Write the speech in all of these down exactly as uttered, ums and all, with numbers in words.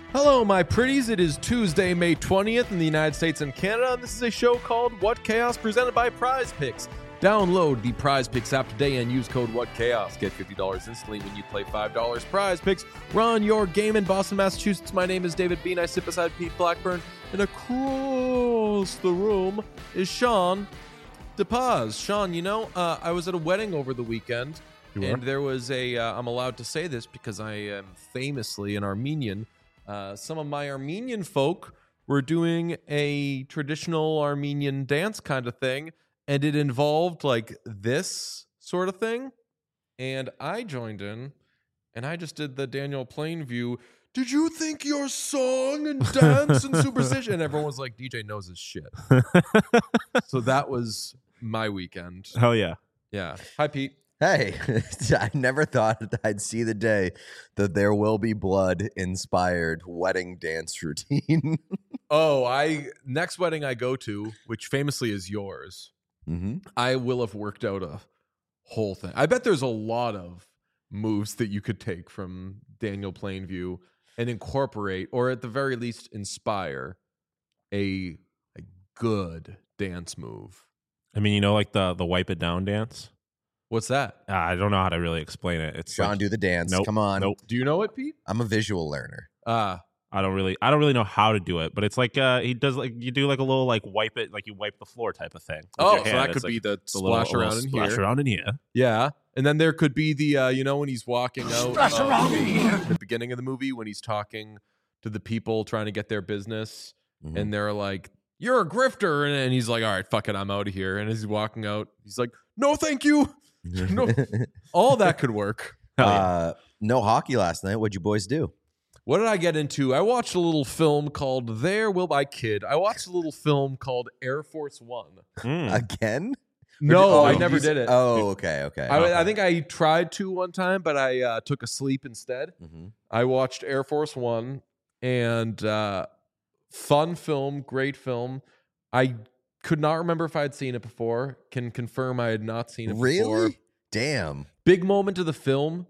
Hello, my pretties. It is Tuesday, May twentieth in the United States and Canada, and this is a show called What Chaos, presented by Prize Picks. Download the Prize Picks app today and use code WhatChaos. Get fifty dollars instantly when you play five dollars. Prize Picks. Run your game in Boston, Massachusetts. My name is David Bean. I sit beside Pete Blackburn, and across the room is Sean DePaz. Sean, you know, uh, I was at a wedding over the weekend, You and are? there was a, uh, I'm allowed to say this because I am famously an Armenian. Uh, some of my Armenian folk were doing a traditional Armenian dance kind of thing, and it involved like this sort of thing. And I joined in, and I just did the Daniel Plainview. Did you think your song and dance and superstition? And everyone was like, D J knows his shit. So that was my weekend. Hell yeah. Yeah. Hi, Pete. Hey, I never thought I'd see the day that There Will Be Blood inspired wedding dance routine. Oh, I next wedding I go to, which famously is yours, mm-hmm. I will have worked out a whole thing. I bet there's a lot of moves that you could take from Daniel Plainview and incorporate, or at the very least inspire, a, a good dance move. I mean, you know, like the the wipe it down dance. What's that? Uh, I don't know how to really explain it. It's Sean, like, do the dance. Nope, Come on. Nope. Do you know it, Pete? I'm a visual learner. Ah, I don't really. I don't really know how to do it, but it's like uh, he does like you do like a little like wipe it, like you wipe the floor type of thing. with oh, your so hand. that It's could be like the a little- splash a little around in splash here. around in here. Yeah, and then there could be the uh, you know when he's walking out Splash uh, around in here. the beginning of the movie when he's talking to the people trying to get their business, Mhm. and they're like, "You're a grifter," and, and he's like, "All right, fuck it, I'm out of here." And as he's walking out, he's like, "No, thank you." No, all that could work. Hell yeah. uh, no hockey last night. What'd you boys do? What did I get into? I watched a little film called There Will I Kid. I watched a little film called Air Force One. Mm. Again? No, Oh, I you never s- did it. Oh, okay, okay. I, I think I tried to one time, but I uh, took a sleep instead. Mhm. I watched Air Force One, and uh, fun film, great film. I could not remember if I had seen it before. Can confirm I had not seen it before. Really? Damn. Big moment of the film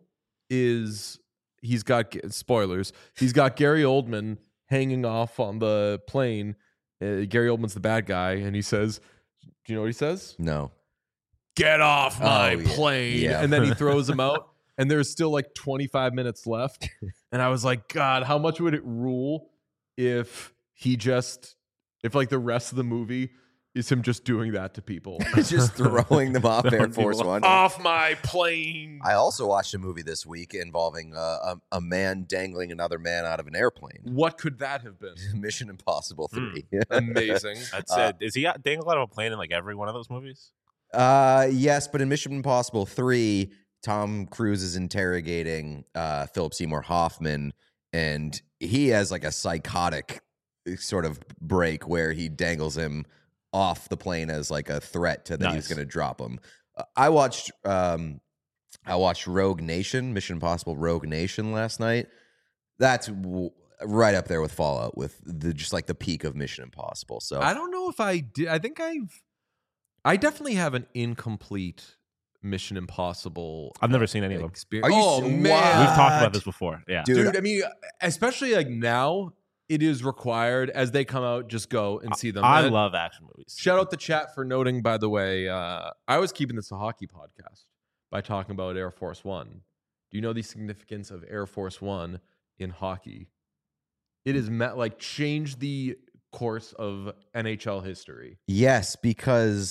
is he's got spoilers. He's got Gary Oldman hanging off on the plane. Uh, Gary Oldman's the bad guy, and he says, "Do you know what he says? No. Get off my Oh, yeah. plane!" Yeah. And then he throws him out. And there's still like twenty-five minutes left. And I was like, God, how much would it rule if he just, if like the rest of the movie is him just doing that to people? Just throwing them off Air Throwing Force people One. Off my plane. I also watched a movie this week involving uh, a, a man dangling another man out of an airplane. What could that have been? Mission Impossible Hmm. three. Amazing. That's Uh, it. Is he out- dangling out of a plane in like every one of those movies? Uh, yes, but in Mission Impossible three, Tom Cruise is interrogating uh, Philip Seymour Hoffman, and he has like a psychotic sort of break where he dangles him off the plane as like a threat to that Nice. he's going to drop him. Uh, I watched um, I watched Rogue Nation, Mission Impossible Rogue Nation last night. That's w- right up there with Fallout, with the just like the peak of Mission Impossible. So I don't know if I did. I think I've, I definitely have an incomplete Mission Impossible. I've never seen any of them. Experience. Are you oh, s- man. We've talked What? about this before. Yeah. Dude, Dude, I mean, especially like now, it is required as they come out, just go and see them. I And love action movies. Shout out the chat for noting, by the way, uh, I was keeping this a hockey podcast by talking about Air Force One. Do you know the significance of Air Force One in hockey? It has met like changed the course of N H L history. yes, because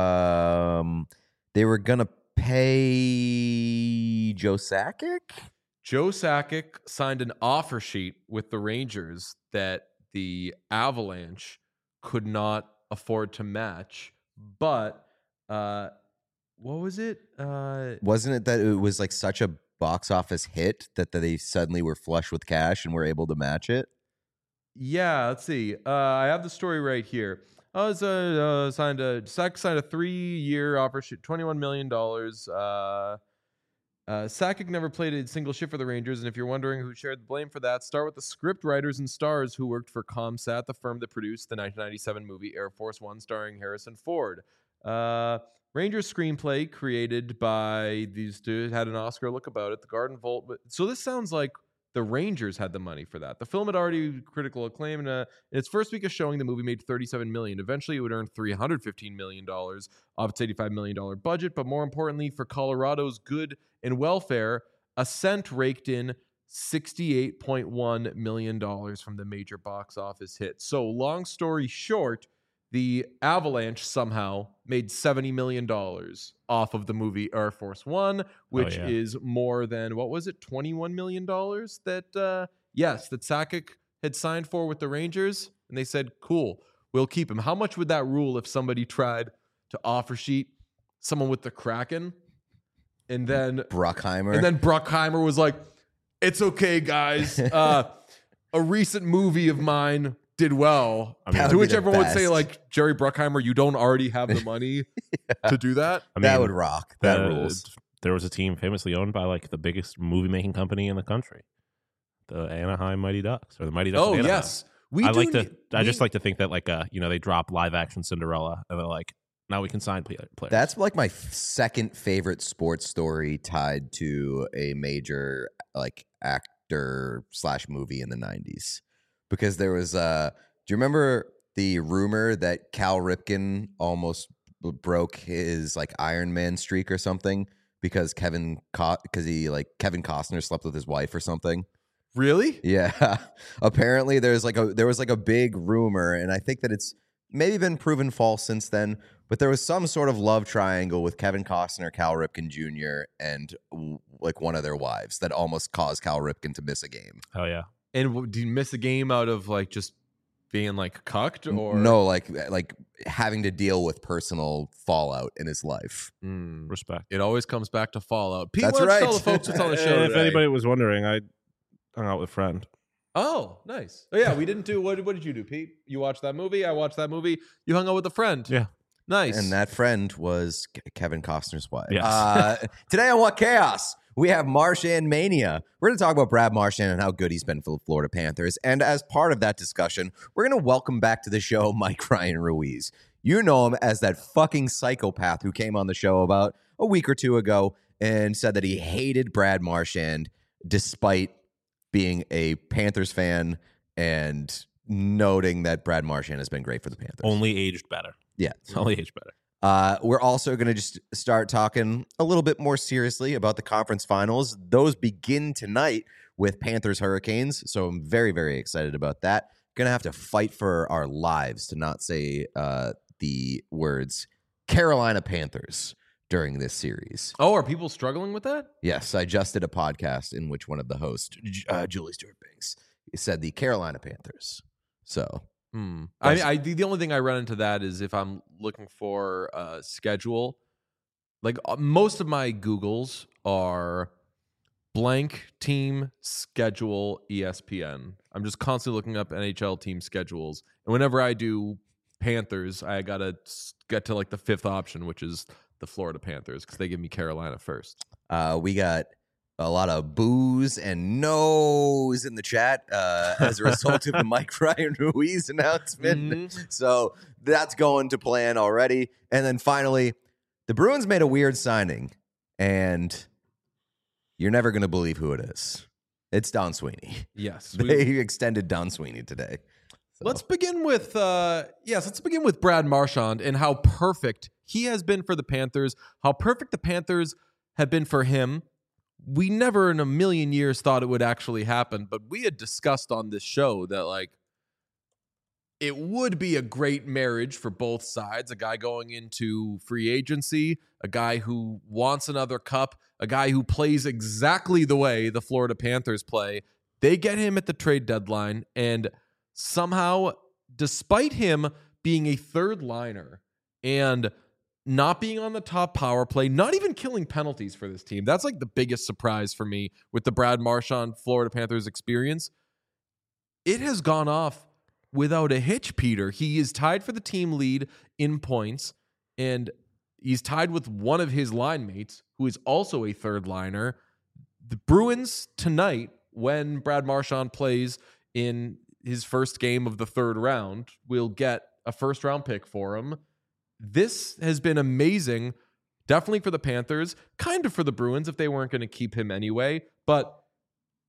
um, they were gonna pay Joe Sakic. Joe Sakic signed an offer sheet with the Rangers that the Avalanche could not afford to match. But uh, what was it? Uh, Wasn't it that it was like such a box office hit that they suddenly were flush with cash and were able to match it? yeah, let's see. Uh, I have the story right here. I was uh, uh, signed a Sakic signed a three-year offer sheet, twenty-one million dollars. Uh, Uh, Sakic never played a single shift for the Rangers, and if you're wondering who shared the blame for that, start with the script writers and stars who worked for Comsat, the firm that produced the nineteen ninety-seven movie Air Force One starring Harrison Ford. Uh, Rangers screenplay created by these two had an Oscar look about it. The Garden Vault. So this sounds like the Rangers had the money for that. The film had already critical acclaim, and uh, in its first week of showing, the movie made thirty-seven million dollars. Eventually, it would earn three hundred fifteen million dollars off its eighty-five million dollars budget. But more importantly, for Colorado's good and welfare, Ascent raked in sixty-eight point one million dollars from the major box office hit. So, long story short, the Avalanche somehow made seventy million dollars off of the movie Air Force One, which oh, yeah. is more than, what was it, twenty-one million dollars that, uh, yes, that Sakic had signed for with the Rangers. And they said, cool, we'll keep him. How much would that rule if somebody tried to offer sheet someone with the Kraken? And then Bruckheimer. And then Bruckheimer was like, it's okay, guys. Uh, a recent movie of mine did well. I mean, to which everyone would best. say, like, Jerry Bruckheimer, you don't already have the money yeah. to do that? I mean, that would rock. That the- rules. There was a team famously owned by like the biggest movie making company in the country, the Anaheim Mighty Ducks, or the Mighty Ducks. Oh, of Anaheim. yes. We I do like to. need- I we- just like to think that like uh you know they drop live action Cinderella and they're like, now we can sign play- players. That's like my f- second favorite sports story tied to a major like actor slash movie in the nineties, because there was uh do you remember the rumor that Cal Ripken almost b- broke his like Iron Man streak or something because Kevin because he like Kevin Costner slept with his wife or something? Really? Yeah. Apparently there's like a there was like a big rumor, and I think that it's maybe been proven false since then, but there was some sort of love triangle with Kevin Costner, Cal Ripken Junior, and w- like one of their wives that almost caused Cal Ripken to miss a game. oh yeah. And w- did you miss a game out of, like, just being, like, cucked? Or No, like like having to deal with personal fallout in his life. Mm. Respect. It always comes back to Fallout. Pete, That's why don't you right. tell the folks what's on the show if today? anybody was wondering, I hung out with a friend. Oh, nice. Oh, yeah, we didn't do, what, what did you do, Pete? You watched that movie? I watched that movie. You hung out with a friend. Yeah. Nice. And that friend was Ke- Kevin Costner's wife. Yes. Uh, today on What Chaos, we have Marchand Mania. We're going to talk about Brad Marchand and how good he's been for the Florida Panthers. And as part of that discussion, we're going to welcome back to the show Mike Ryan Ruiz. You know him as that fucking psychopath who came on the show about a week or two ago and said that he hated Brad Marchand despite being a Panthers fan and noting that Brad Marchand has been great for the Panthers. Only aged better. Yeah. It's only aged better. Uh, we're also going to just start talking a little bit more seriously about the conference finals. Those begin tonight with Panthers Hurricanes, so I'm very, very excited about that. Going to have to fight for our lives to not say uh, the words Carolina Panthers during this series. oh, are people struggling with that? Yes, I just did a podcast in which one of the hosts, J- uh, Julie Stewart-Banks, said the Carolina Panthers. So... Hmm. I, Yes. I the the only thing I run into that is if I'm looking for a schedule. Like uh, most of my Googles are blank team schedule E S P N. I'm just constantly looking up N H L team schedules, and whenever I do Panthers, I gotta s- get to like the fifth option, which is the Florida Panthers, because they give me Carolina first. Uh, we got a lot of boos and no's in the chat uh, as a result of the Mike Ryan Ruiz announcement. Mhm. So that's going to plan already. And then finally, the Bruins made a weird signing, and you're never going to believe who it is. It's Don Sweeney. Yes, They we- extended Don Sweeney today. So- Let's begin with uh yes, let's begin with Brad Marchand and how perfect he has been for the Panthers, how perfect the Panthers have been for him. We never in a million years thought it would actually happen, but we had discussed on this show that like it would be a great marriage for both sides, a guy going into free agency, a guy who wants another cup, a guy who plays exactly the way the Florida Panthers play. They get him at the trade deadline, and somehow, despite him being a third liner and not being on the top power play, not even killing penalties for this team, that's like the biggest surprise for me with the Brad Marchand Florida Panthers experience. It has gone off without a hitch, Peter. He is tied for the team lead in points, and he's tied with one of his line mates, who is also a third liner. The Bruins tonight, when Brad Marchand plays in his first game of the third round, will get a first round pick for him. This has been amazing, definitely for the Panthers, kind of for the Bruins if they weren't going to keep him anyway. But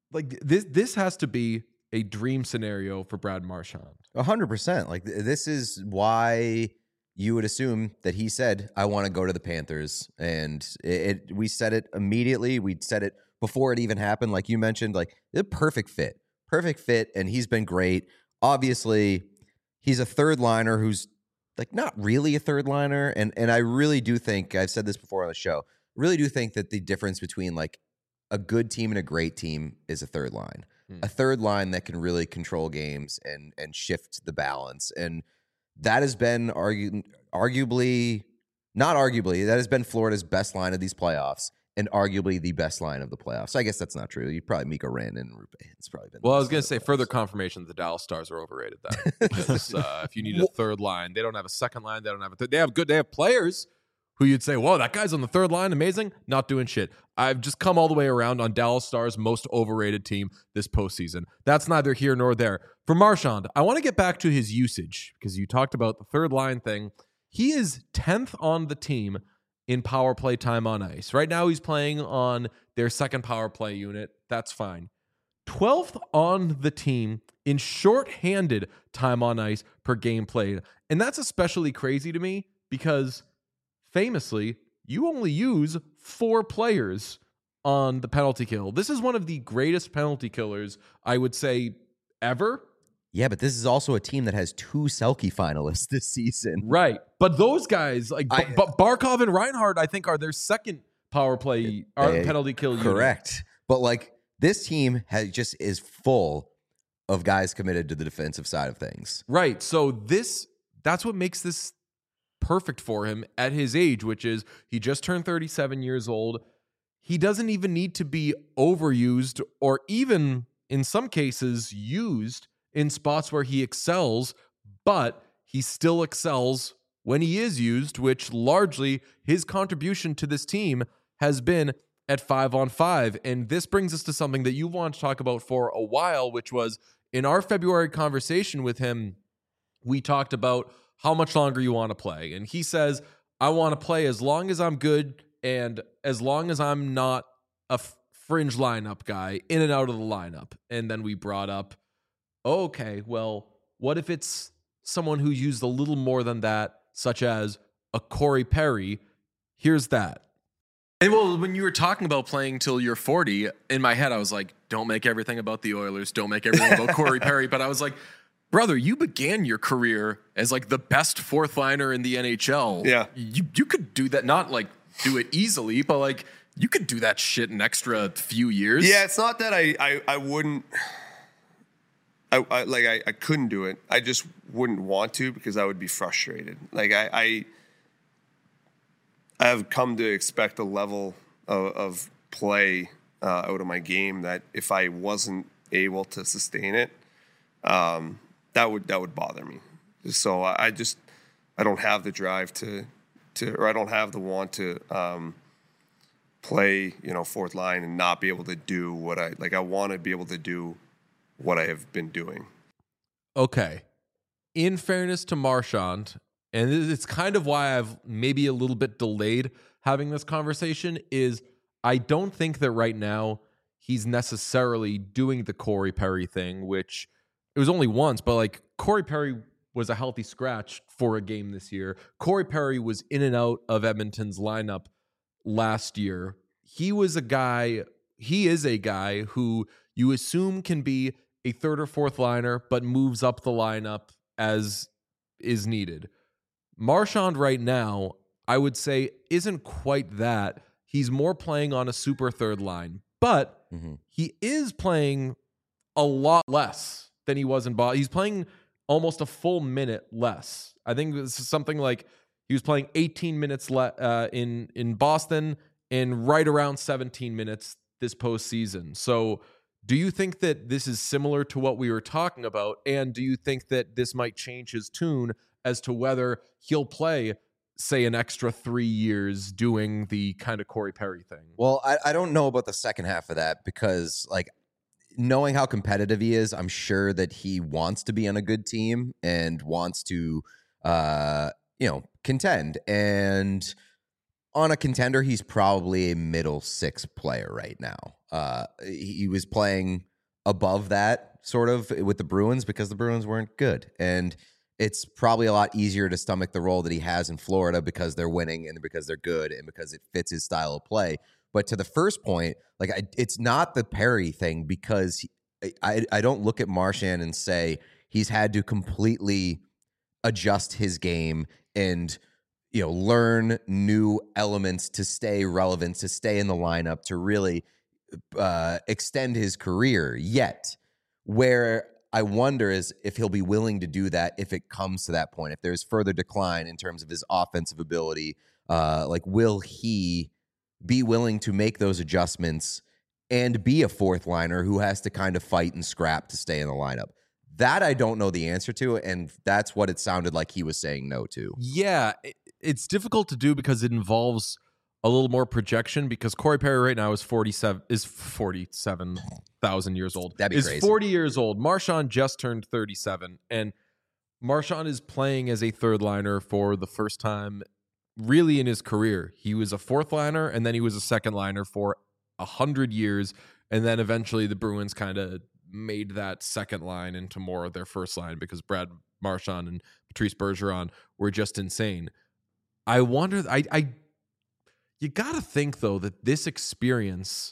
like this this has to be a dream scenario for Brad Marchand. A hundred percent. Like th- this is why you would assume that he said, "I want to go to the Panthers," and it, it. We said it immediately. We said it before it even happened. Like you mentioned, like the perfect fit, perfect fit, and he's been great. Obviously, he's a third liner who's like not really a third liner, and and I really do think I've said this before on the show. Really do think that the difference between like a good team and a great team is a third line. A third line that can really control games and and shift the balance. And that has been argu- arguably, not arguably, that has been Florida's best line of these playoffs and arguably the best line of the playoffs. I guess that's not true. You probably Mikko Rantanen and Rupe. It's probably been. Well, I was going to say further confirmation that the Dallas Stars are overrated then. Because uh, if you need a third line, they don't have a second line. They don't have a th- They have good, they have players who you'd say, whoa, that guy's on the third line, amazing, not doing shit. I've just come all the way around on Dallas Stars' most overrated team this postseason. That's neither here nor there. For Marchand, I want to get back to his usage because you talked about the third line thing. He is tenth on the team in power play time on ice. Right now he's playing on their second power play unit. That's fine. twelfth on the team in shorthanded time on ice per game played. And that's especially crazy to me because famously, you only use four players on the penalty kill. This is one of the greatest penalty killers, I would say, ever. Yeah, but this is also a team that has two Selke finalists this season. Right. But those guys, like I, B- B- Barkov and Reinhart, I think are their second power play or they, penalty kill unit. Correct. But like this team has just is full of guys committed to the defensive side of things. Right. So this, that's what makes this perfect for him at his age, which is he just turned thirty-seven years old. He doesn't even need to be overused or even in some cases used in spots where he excels, but he still excels when he is used, which largely his contribution to this team has been at five on five. And this brings us to something that you want to talk about for a while, which was in our February conversation with him, we talked about how much longer you want to play. And he says, I want to play as long as I'm good and as long as I'm not a f- fringe lineup guy in and out of the lineup. And then we brought up, okay, well, what if it's someone who used a little more than that, such as a Corey Perry? Here's that. And well, when you were talking about playing till you're forty, in my head, I was like, don't make everything about the Oilers. Don't make everything about Corey Perry. But I was like, brother, you began your career as like the best fourth liner in the N H L. Yeah. You you could do that, not like do it easily, but like you could do that shit an extra few years. Yeah, it's not that I I, I wouldn't I, I like I, I couldn't do it. I just wouldn't want to because I would be frustrated. Like I I, I have come to expect a level of, of play uh, out of my game that if I wasn't able to sustain it, um, that would that would bother me. So I, I just I don't have the drive to to or I don't have the want to um, play, you know, fourth line and not be able to do what I like. I want to be able to do what I have been doing. Okay. In fairness to Marchand, and it's kind of why I've maybe a little bit delayed having this conversation, is I don't think that right now he's necessarily doing the Corey Perry thing, which it was only once, but like Corey Perry was a healthy scratch for a game this year. Corey Perry was in and out of Edmonton's lineup last year. He was a guy, he is a guy who you assume can be a third or fourth liner, but moves up the lineup as is needed. Marchand right now, I would say, isn't quite that. He's more playing on a super third line, but mm-hmm. he is playing a lot less than he was in Boston. He's playing almost a full minute less. I think this is something like he was playing eighteen minutes le- uh, in, in Boston and right around seventeen minutes this postseason. So do you think that this is similar to what we were talking about? And do you think that this might change his tune as to whether he'll play, say, an extra three years doing the kind of Corey Perry thing? Well, I, I don't know about the second half of that because, like, knowing how competitive he is, I'm sure that he wants to be on a good team and wants to, uh, you know, contend. And on a contender, he's probably a middle six player right now. Uh, he was playing above that sort of with the Bruins because the Bruins weren't good. And it's probably a lot easier to stomach the role that he has in Florida because they're winning and because they're good and because it fits his style of play. But to the first point, like I, it's not the Perry thing because he, I, I don't look at Marchand and say he's had to completely adjust his game and, you know, learn new elements to stay relevant, to stay in the lineup, to really uh, extend his career yet. Where I wonder is if he'll be willing to do that if it comes to that point, if there's further decline in terms of his offensive ability, uh, like will he be willing to make those adjustments and be a fourth liner who has to kind of fight and scrap to stay in the lineup? That I don't know the answer to, and that's what it sounded like he was saying no to. Yeah, it, it's difficult to do because it involves a little more projection because Corey Perry right now is forty-seven is forty-seven thousand years old. That'd be is crazy. forty years old. Marchand just turned thirty-seven, and Marchand is playing as a third liner for the first time really in his career. He was a fourth liner, and then he was a second liner for a hundred years, and then eventually the Bruins kind of made that second line into more of their first line because Brad Marchand and Patrice Bergeron were just insane. I wonder, I, I, you got to think though that this experience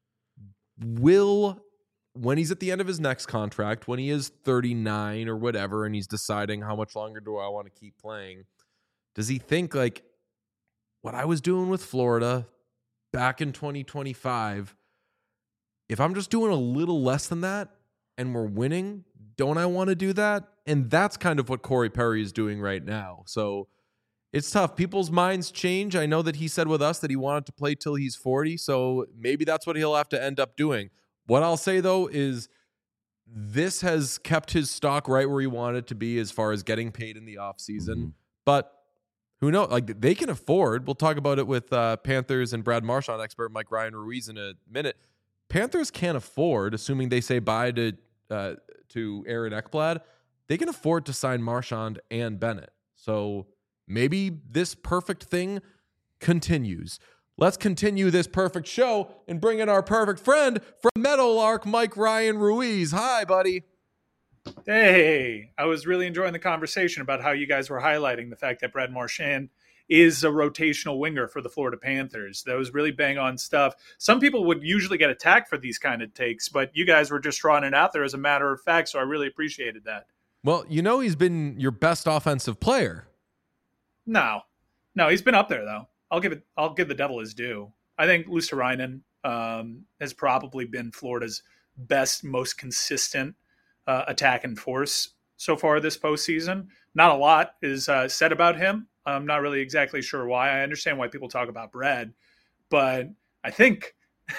will, when he's at the end of his next contract, when he is thirty-nine or whatever, and he's deciding how much longer do I want to keep playing, does he think like what I was doing with Florida back in twenty twenty-five, if I'm just doing a little less than that and we're winning, don't I want to do that? And that's kind of what Corey Perry is doing right now. So it's tough. People's minds change. I know that he said with us that he wanted to play till he's forty. So maybe that's what he'll have to end up doing. What I'll say, though, is this has kept his stock right where he wanted it to be as far as getting paid in the offseason. Mm-hmm. But who knows? Like, they can afford. We'll talk about it with uh, Panthers and Brad Marchand expert Mike Ryan Ruiz in a minute. Panthers can't afford, assuming they say bye to uh, to Aaron Ekblad, they can afford to sign Marchand and Bennett. So maybe this perfect thing continues. Let's continue this perfect show and bring in our perfect friend from Meadowlark, Mike Ryan Ruiz. Hi, buddy. Hey, I was really enjoying the conversation about how you guys were highlighting the fact that Brad Marchand is a rotational winger for the Florida Panthers. That was really bang on stuff. Some people would usually get attacked for these kind of takes, but you guys were just drawing it out there as a matter of fact, so I really appreciated that. Well, you know he's been your best offensive player. No. No, he's been up there, though. I'll give it. I'll give the devil his due. I think Luostarinen um, has probably been Florida's best, most consistent uh, attacking force so far this postseason. Not a lot is uh, said about him. I'm not really exactly sure why. I understand why people talk about Brad, but I think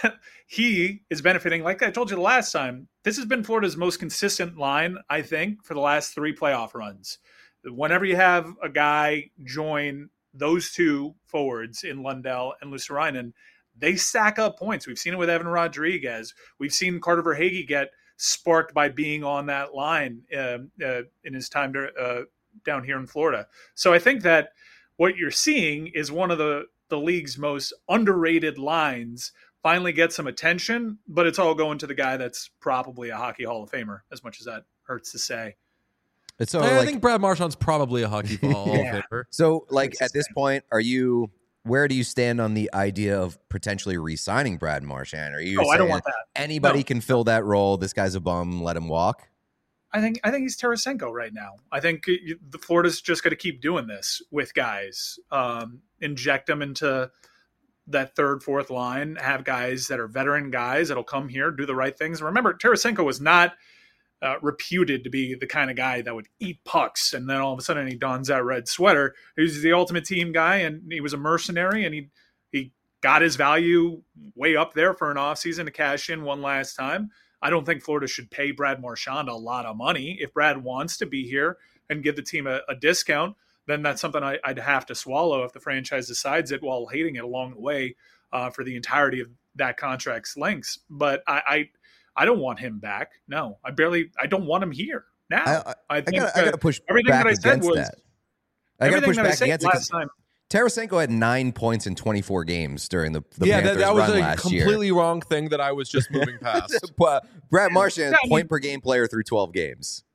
he is benefiting. Like I told you the last time, this has been Florida's most consistent line, I think, for the last three playoff runs. Whenever you have a guy join those two forwards in Lundell and Luostarinen, they stack up points. We've seen it with Evan Rodriguez. We've seen Carter Verhaeghe get sparked by being on that line uh, uh, in his time to, uh, down here in Florida. So I think that what you're seeing is one of the, the league's most underrated lines finally get some attention, but it's all going to the guy that's probably a Hockey Hall of Famer, as much as that hurts to say. It's so, I like, think Brad Marchand's probably a Hockey Hall of Yeah. Famer. So, like, at this point, are you, where do you stand on the idea of potentially re-signing Brad Marchand? Are you Oh, I don't saying want that. anybody No. can fill that role? This guy's a bum. Let him walk. I think I think he's Tarasenko right now. I think you- the Florida's just going to keep doing this with guys, um, inject them into that third, fourth line, have guys that are veteran guys that'll come here, do the right things. Remember, Tarasenko was not uh, reputed to be the kind of guy that would eat pucks, and then all of a sudden he dons that red sweater. He was the ultimate team guy, and he was a mercenary, and he he got his value way up there for an offseason to cash in one last time. I don't think Florida should pay Brad Marchand a lot of money. If Brad wants to be here and give the team a, a discount, then that's something I, I'd have to swallow if the franchise decides it while hating it along the way uh, for the entirety of that contract's lengths. But I, I I don't want him back. No, I barely, I don't want him here now. I, I, I I think gotta, I gotta push everything back that I said against was that. I gotta everything push that I back said against it. last 'Cause time. Tarasenko had nine points in twenty-four games during the, the yeah, Panthers that, that was run a last completely year. wrong thing that I was just moving past. But Brad Marchand, Yeah, I mean- point per game player through twelve games.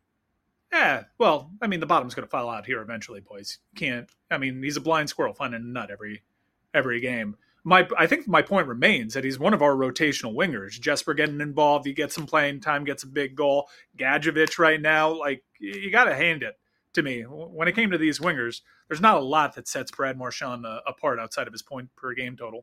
Yeah, well, I mean, the bottom's going to fall out here eventually, boys. Can't. I mean, he's a blind squirrel finding a nut every every game. My, I think my point remains that he's one of our rotational wingers. Jesper getting involved, he gets some playing time, gets a big goal. Gadjevich right now, like you got to hand it to me. When it came to these wingers, there's not a lot that sets Brad Marchand uh, apart outside of his point per game total.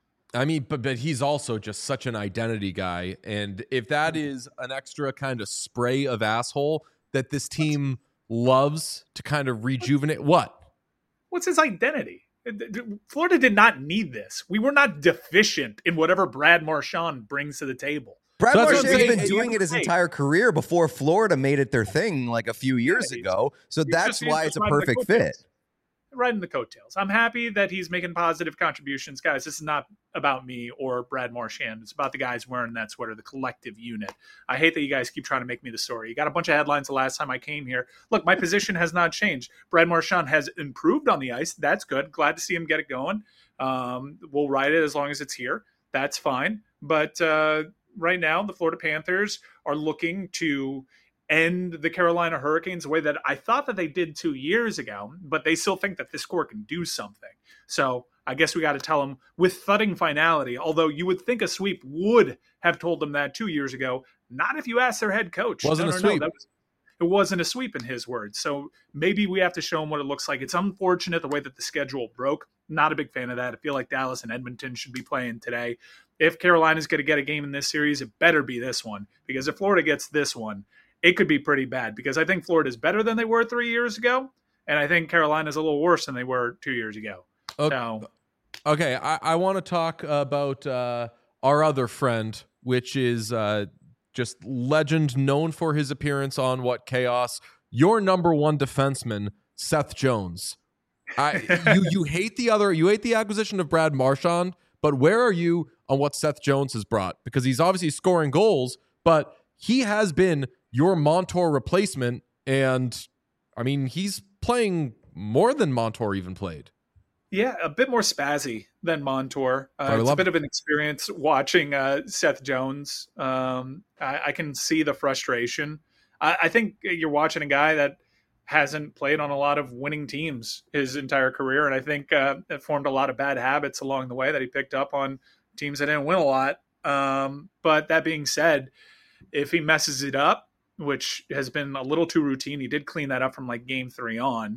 I mean, but but he's also just such an identity guy, and if that is an extra kind of spray of asshole that this team loves to kind of rejuvenate, what? What's his identity? Florida did not need this. We were not deficient in whatever Brad Marchand brings to the table. Brad So that's what I'm Marchand's saying. been doing it his entire career before Florida made it their thing like a few years Yeah, he's- ago. So he's that's just- he's why just it's a riding the perfect coattails. fit. Riding the coattails. I'm happy that he's making positive contributions. Guys, this is not about me or Brad Marchand. It's about the guys wearing that sweater, the collective unit. I hate that you guys keep trying to make me the story. You got a bunch of headlines the last time I came here. Look, my position has not changed. Brad Marchand has improved on the ice. That's good. Glad to see him get it going. Um, we'll ride it as long as it's here. That's fine. But uh, right now, the Florida Panthers are looking to end the Carolina Hurricanes the way that I thought that they did two years ago, but they still think that this core can do something. So I guess we got to tell them with thudding finality, although you would think a sweep would have told them that two years ago. Not if you ask their head coach. Wasn't No, a no, no, sweep. that was, it wasn't a sweep in his words. So maybe we have to show them what it looks like. It's unfortunate the way that the schedule broke. Not a big fan of that. I feel like Dallas and Edmonton should be playing today. If Carolina's going to get a game in this series, it better be this one, because if Florida gets this one, it could be pretty bad, because I think Florida's better than they were three years ago, and I think Carolina's a little worse than they were two years ago. Okay, So, okay I, I want to talk about uh, our other friend, which is uh, just legend, known for his appearance on What Chaos, your number one defenseman, Seth Jones. I, you you hate the other, you hate the acquisition of Brad Marchand, but where are you on what Seth Jones has brought? Because he's obviously scoring goals, but he has been your Montour replacement, and I mean, he's playing more than Montour even played. yeah, a bit more spazzy than Montour. Uh, I it's a love bit it. of an experience watching uh, Seth Jones. Um, I, I can see the frustration. I, I think you're watching a guy that hasn't played on a lot of winning teams his entire career, and I think uh, it formed a lot of bad habits along the way that he picked up on teams that didn't win a lot. Um, but that being said, if he messes it up, which has been a little too routine, he did clean that up from like game three on.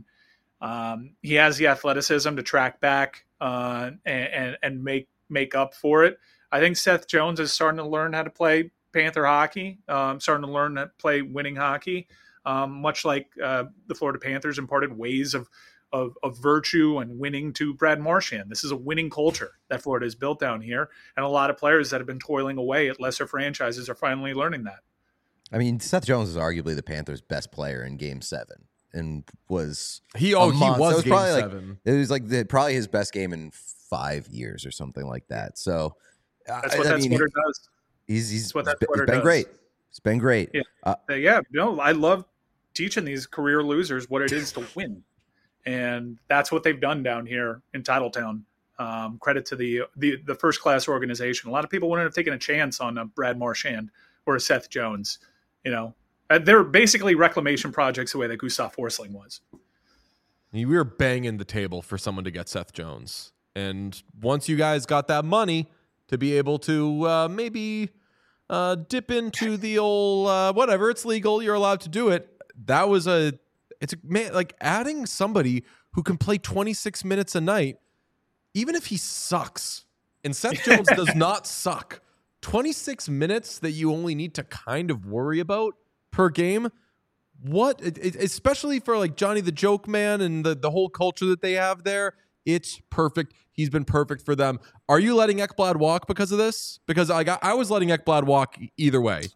Um, he has the athleticism to track back uh, and, and and make make up for it. I think Seth Jones is starting to learn how to play Panther hockey, um, starting to learn how to play winning hockey, um, much like uh, the Florida Panthers imparted ways of, of of virtue and winning to Brad Marchand. This is a winning culture that Florida has built down here, and a lot of players that have been toiling away at lesser franchises are finally learning that. I mean, Seth Jones is arguably the Panthers' best player in Game Seven, and was He oh a he monster. was, It was game probably like- seven. it was like the, probably his best game in five years or something like that. So That's I, what I that mean, sweater does. he's he's, That's what he's that been, sweater he's been does. great. It's been great. Yeah. Uh, Uh, yeah, no, I love teaching these career losers what it is to win, and that's what they've done down here in Titletown. Um, credit to the the the first class organization. A lot of people wouldn't have taken a chance on a Brad Marchand or a Seth Jones. You know, uh, they're basically reclamation projects the way that Gustav Forsling was. We were banging the table for someone to get Seth Jones. And once you guys got that money to be able to uh, maybe uh, dip into the old uh, whatever, it's legal, you're allowed to do it. That was a, it's a, man, like adding somebody who can play twenty-six minutes a night, even if he sucks. And Seth Jones does not suck. twenty-six minutes that you only need to kind of worry about per game. What, it, it- especially for like Johnny the Joke Man and the, the whole culture that they have there, it's perfect. He's been perfect for them. Are you letting Ekblad walk because of this? Because I got, I was letting Ekblad walk either way.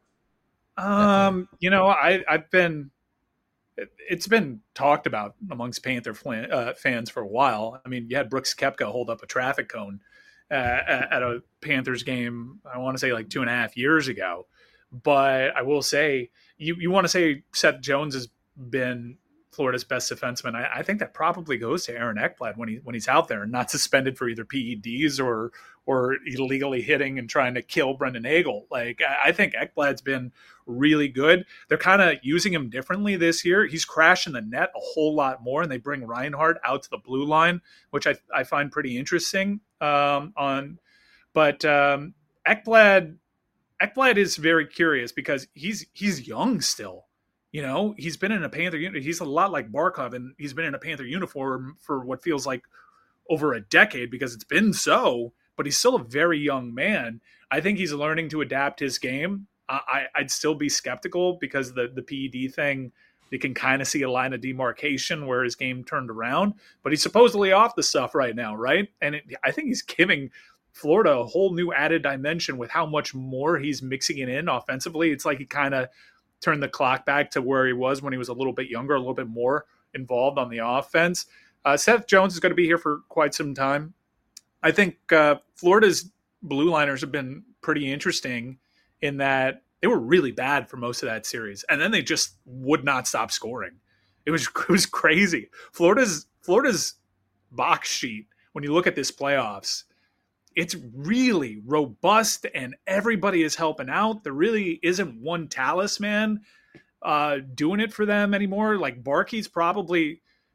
Um, you know, I I've been it, it's been talked about amongst Panther flan, uh, fans for a while. I mean, you had Brooks Koepka hold up a traffic cone uh, at, at a Panthers game. I want to say like two and a half years ago. But I will say, you you want to say Seth Jones has been Florida's best defenseman, I, I think that probably goes to Aaron Ekblad when he when he's out there and not suspended for either P E Ds or or illegally hitting and trying to kill Brendan Hagel. Like, I, I think Ekblad's been really good. They're kind of using him differently this year. He's crashing the net a whole lot more, and they bring Reinhart out to the blue line, which I I find pretty interesting. Um, on, but um, Ekblad Ekblad is very curious because he's he's young still. You know, he's been in a Panther uniform. He's a lot like Barkov, and he's been in a Panther uniform for what feels like over a decade because it's been so, but he's still a very young man. I think he's learning to adapt his game. I, I'd still be skeptical because the, the P E D thing, you can kind of see a line of demarcation where his game turned around, but he's supposedly off the stuff right now, right? And it, I think he's giving Florida a whole new added dimension with how much more he's mixing it in offensively. It's like he kind of turn the clock back to where he was when he was a little bit younger, a little bit more involved on the offense. Uh, Seth Jones is going to be here for quite some time. I think uh, Florida's blue liners have been pretty interesting in that they were really bad for most of that series, and then they just would not stop scoring. It was it was crazy. Florida's Florida's box sheet, when you look at this playoffs, it's really robust and everybody is helping out. There really isn't one talisman uh, doing it for them anymore. Like Barkey's probably,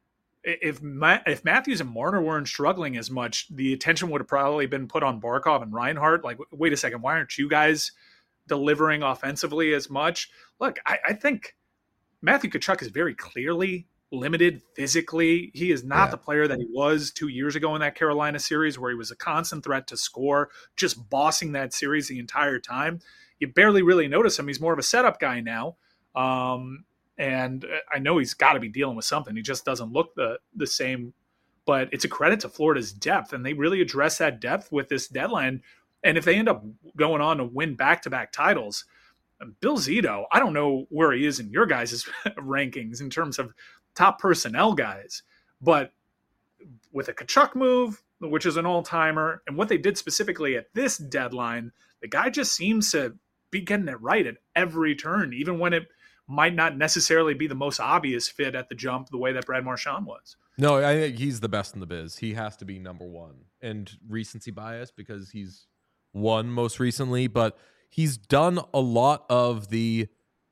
if Ma- if Matthews and Marner weren't struggling as much, the attention would have probably been put on Barkov and Reinhart. Like, wait a second, why aren't you guys delivering offensively as much? Look, I, I think Matthew Tkachuk is very clearly limited physically. He is not yeah. the player that he was two years ago in that Carolina series where he was a constant threat to score, just bossing that series the entire time. You barely really notice him. He's more of a setup guy now. Um, and I know he's got to be dealing with something. He just doesn't look the, the same, but it's a credit to Florida's depth. And they really address that depth with this deadline. And if they end up going on to win back-to-back titles, Bill Zito, I don't know where he is in your guys' rankings in terms of top personnel guys, but with a Tkachuk move, which is an all-timer, and what they did specifically at this deadline, the guy just seems to be getting it right at every turn, even when it might not necessarily be the most obvious fit at the jump the way that Brad Marchand was. No, I think he's the best in the biz. He has to be number one. And recency bias because he's won most recently, but he's done a lot of the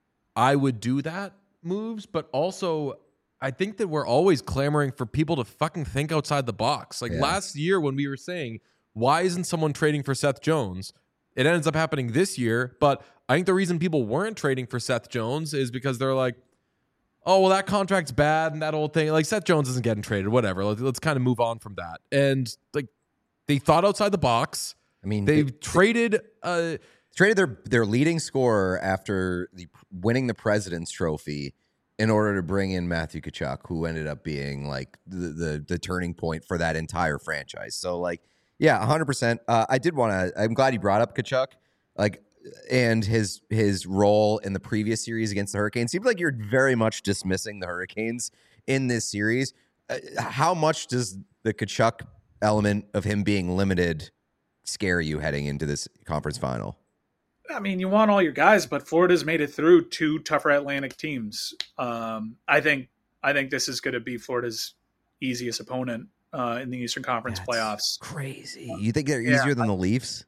I would do that moves, but also I think that we're always clamoring for people to fucking think outside the box. Like yeah. last year when we were saying, why isn't someone trading for Seth Jones? It ends up happening this year, but I think the reason people weren't trading for Seth Jones is because they're like, oh, well, that contract's bad and that old thing. Like, Seth Jones isn't getting traded, whatever. Let's, let's kind of move on from that. And, like, they thought outside the box. I mean, they it, traded... Uh, traded their, their leading scorer after the winning the President's Trophy in order to bring in Matthew Tkachuk, who ended up being, like, the, the, the turning point for that entire franchise. So, like, yeah, one hundred percent. Uh, I did want to... I'm glad you brought up Tkachuk. Like... and his his role in the previous series against the Hurricanes. Seems like you're very much dismissing the Hurricanes in this series. Uh, how much does the Tkachuk element of him being limited scare you heading into this conference final? I mean, you want all your guys, but Florida's made it through two tougher Atlantic teams. Um, I think I think this is going to be Florida's easiest opponent uh, in the Eastern Conference That's playoffs. Crazy. You think they're easier yeah. than the Leafs?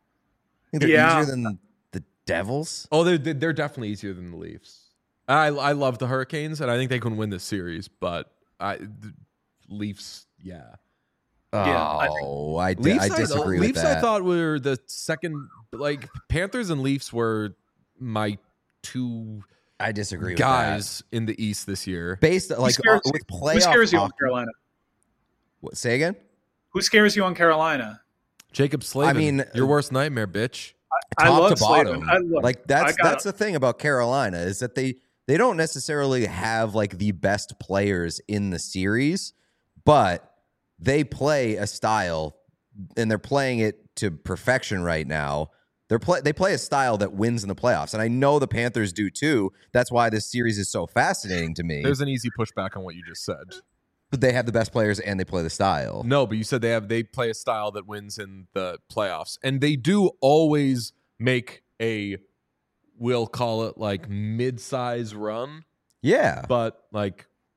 Think they're yeah. easier than the Devils? Oh, they're they're definitely easier than the Leafs. I I love the Hurricanes, and I think they can win this series. But I the Leafs, yeah. Oh, Yeah, I, I, Leafs, I disagree I, with Leafs that. I thought were the second. Like Panthers and Leafs were my two I disagree guys with in the East this year. that. Based like scares, uh, with playoff. Who scares you on hockey- Carolina? What, say again? Who scares you on Carolina? Jacob Slavin, I mean, your worst nightmare, bitch. I Top love to bottom. Slavin. I love, Like that's I got that's the thing about Carolina is that they they don't necessarily have like the best players in the series, but they play a style and they're playing it to perfection right now. They're play they play a style that wins in the playoffs, and I know the Panthers do too. That's why this series is so fascinating to me. There's an easy pushback on what you just said. But they have the best players and they play the style. No, but you said they have they play a style that wins in the playoffs, and they do always make a, we'll call it like mid-size run, Yeah, but like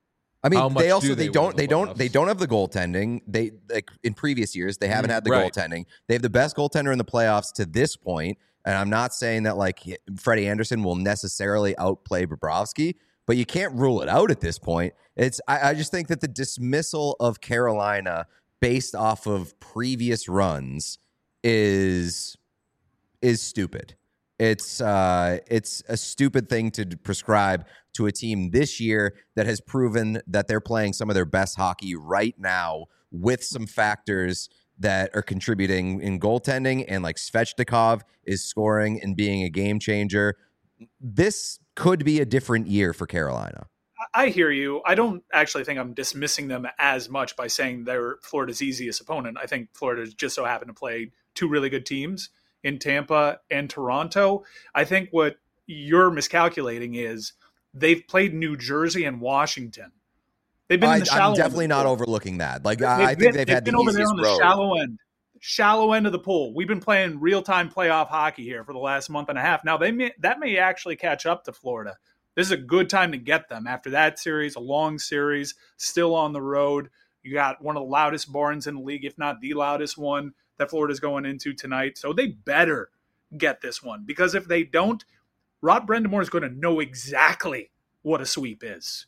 I mean, How much they also do they, they win don't in they the don't they playoffs? don't have the goaltending. They like in previous years they haven't Mm, had the right. goaltending. They have the best goaltender in the playoffs to this point, and I'm not saying that like Freddie Anderson will necessarily outplay Bobrovsky, but you can't rule it out at this point. It's I, I just think that the dismissal of Carolina based off of previous runs is is stupid. It's uh, it's a stupid thing to prescribe to a team this year that has proven that they're playing some of their best hockey right now with some factors that are contributing in goaltending, and like Svechnikov is scoring and being a game changer. This could be a different year for Carolina. I hear you. I don't actually think I'm dismissing them as much by saying they're Florida's easiest opponent. I think Florida just so happened to play two really good teams in Tampa and Toronto. I think what you're miscalculating is they've played New Jersey and Washington. They've been I, in the shallow I'm definitely end not of the pool. overlooking that. Like They've I, I been, think they've, they've had been the over there easiest on the road. shallow end, shallow end of the pool. We've been playing real-time playoff hockey here for the last month and a half. Now they may, that may actually catch up to Florida. This is a good time to get them after that series, a long series, still on the road. You got one of the loudest barns in the league, if not the loudest one that Florida's going into tonight. So they better get this one, because if they don't, Rod Brind'Amour is going to know exactly what a sweep is.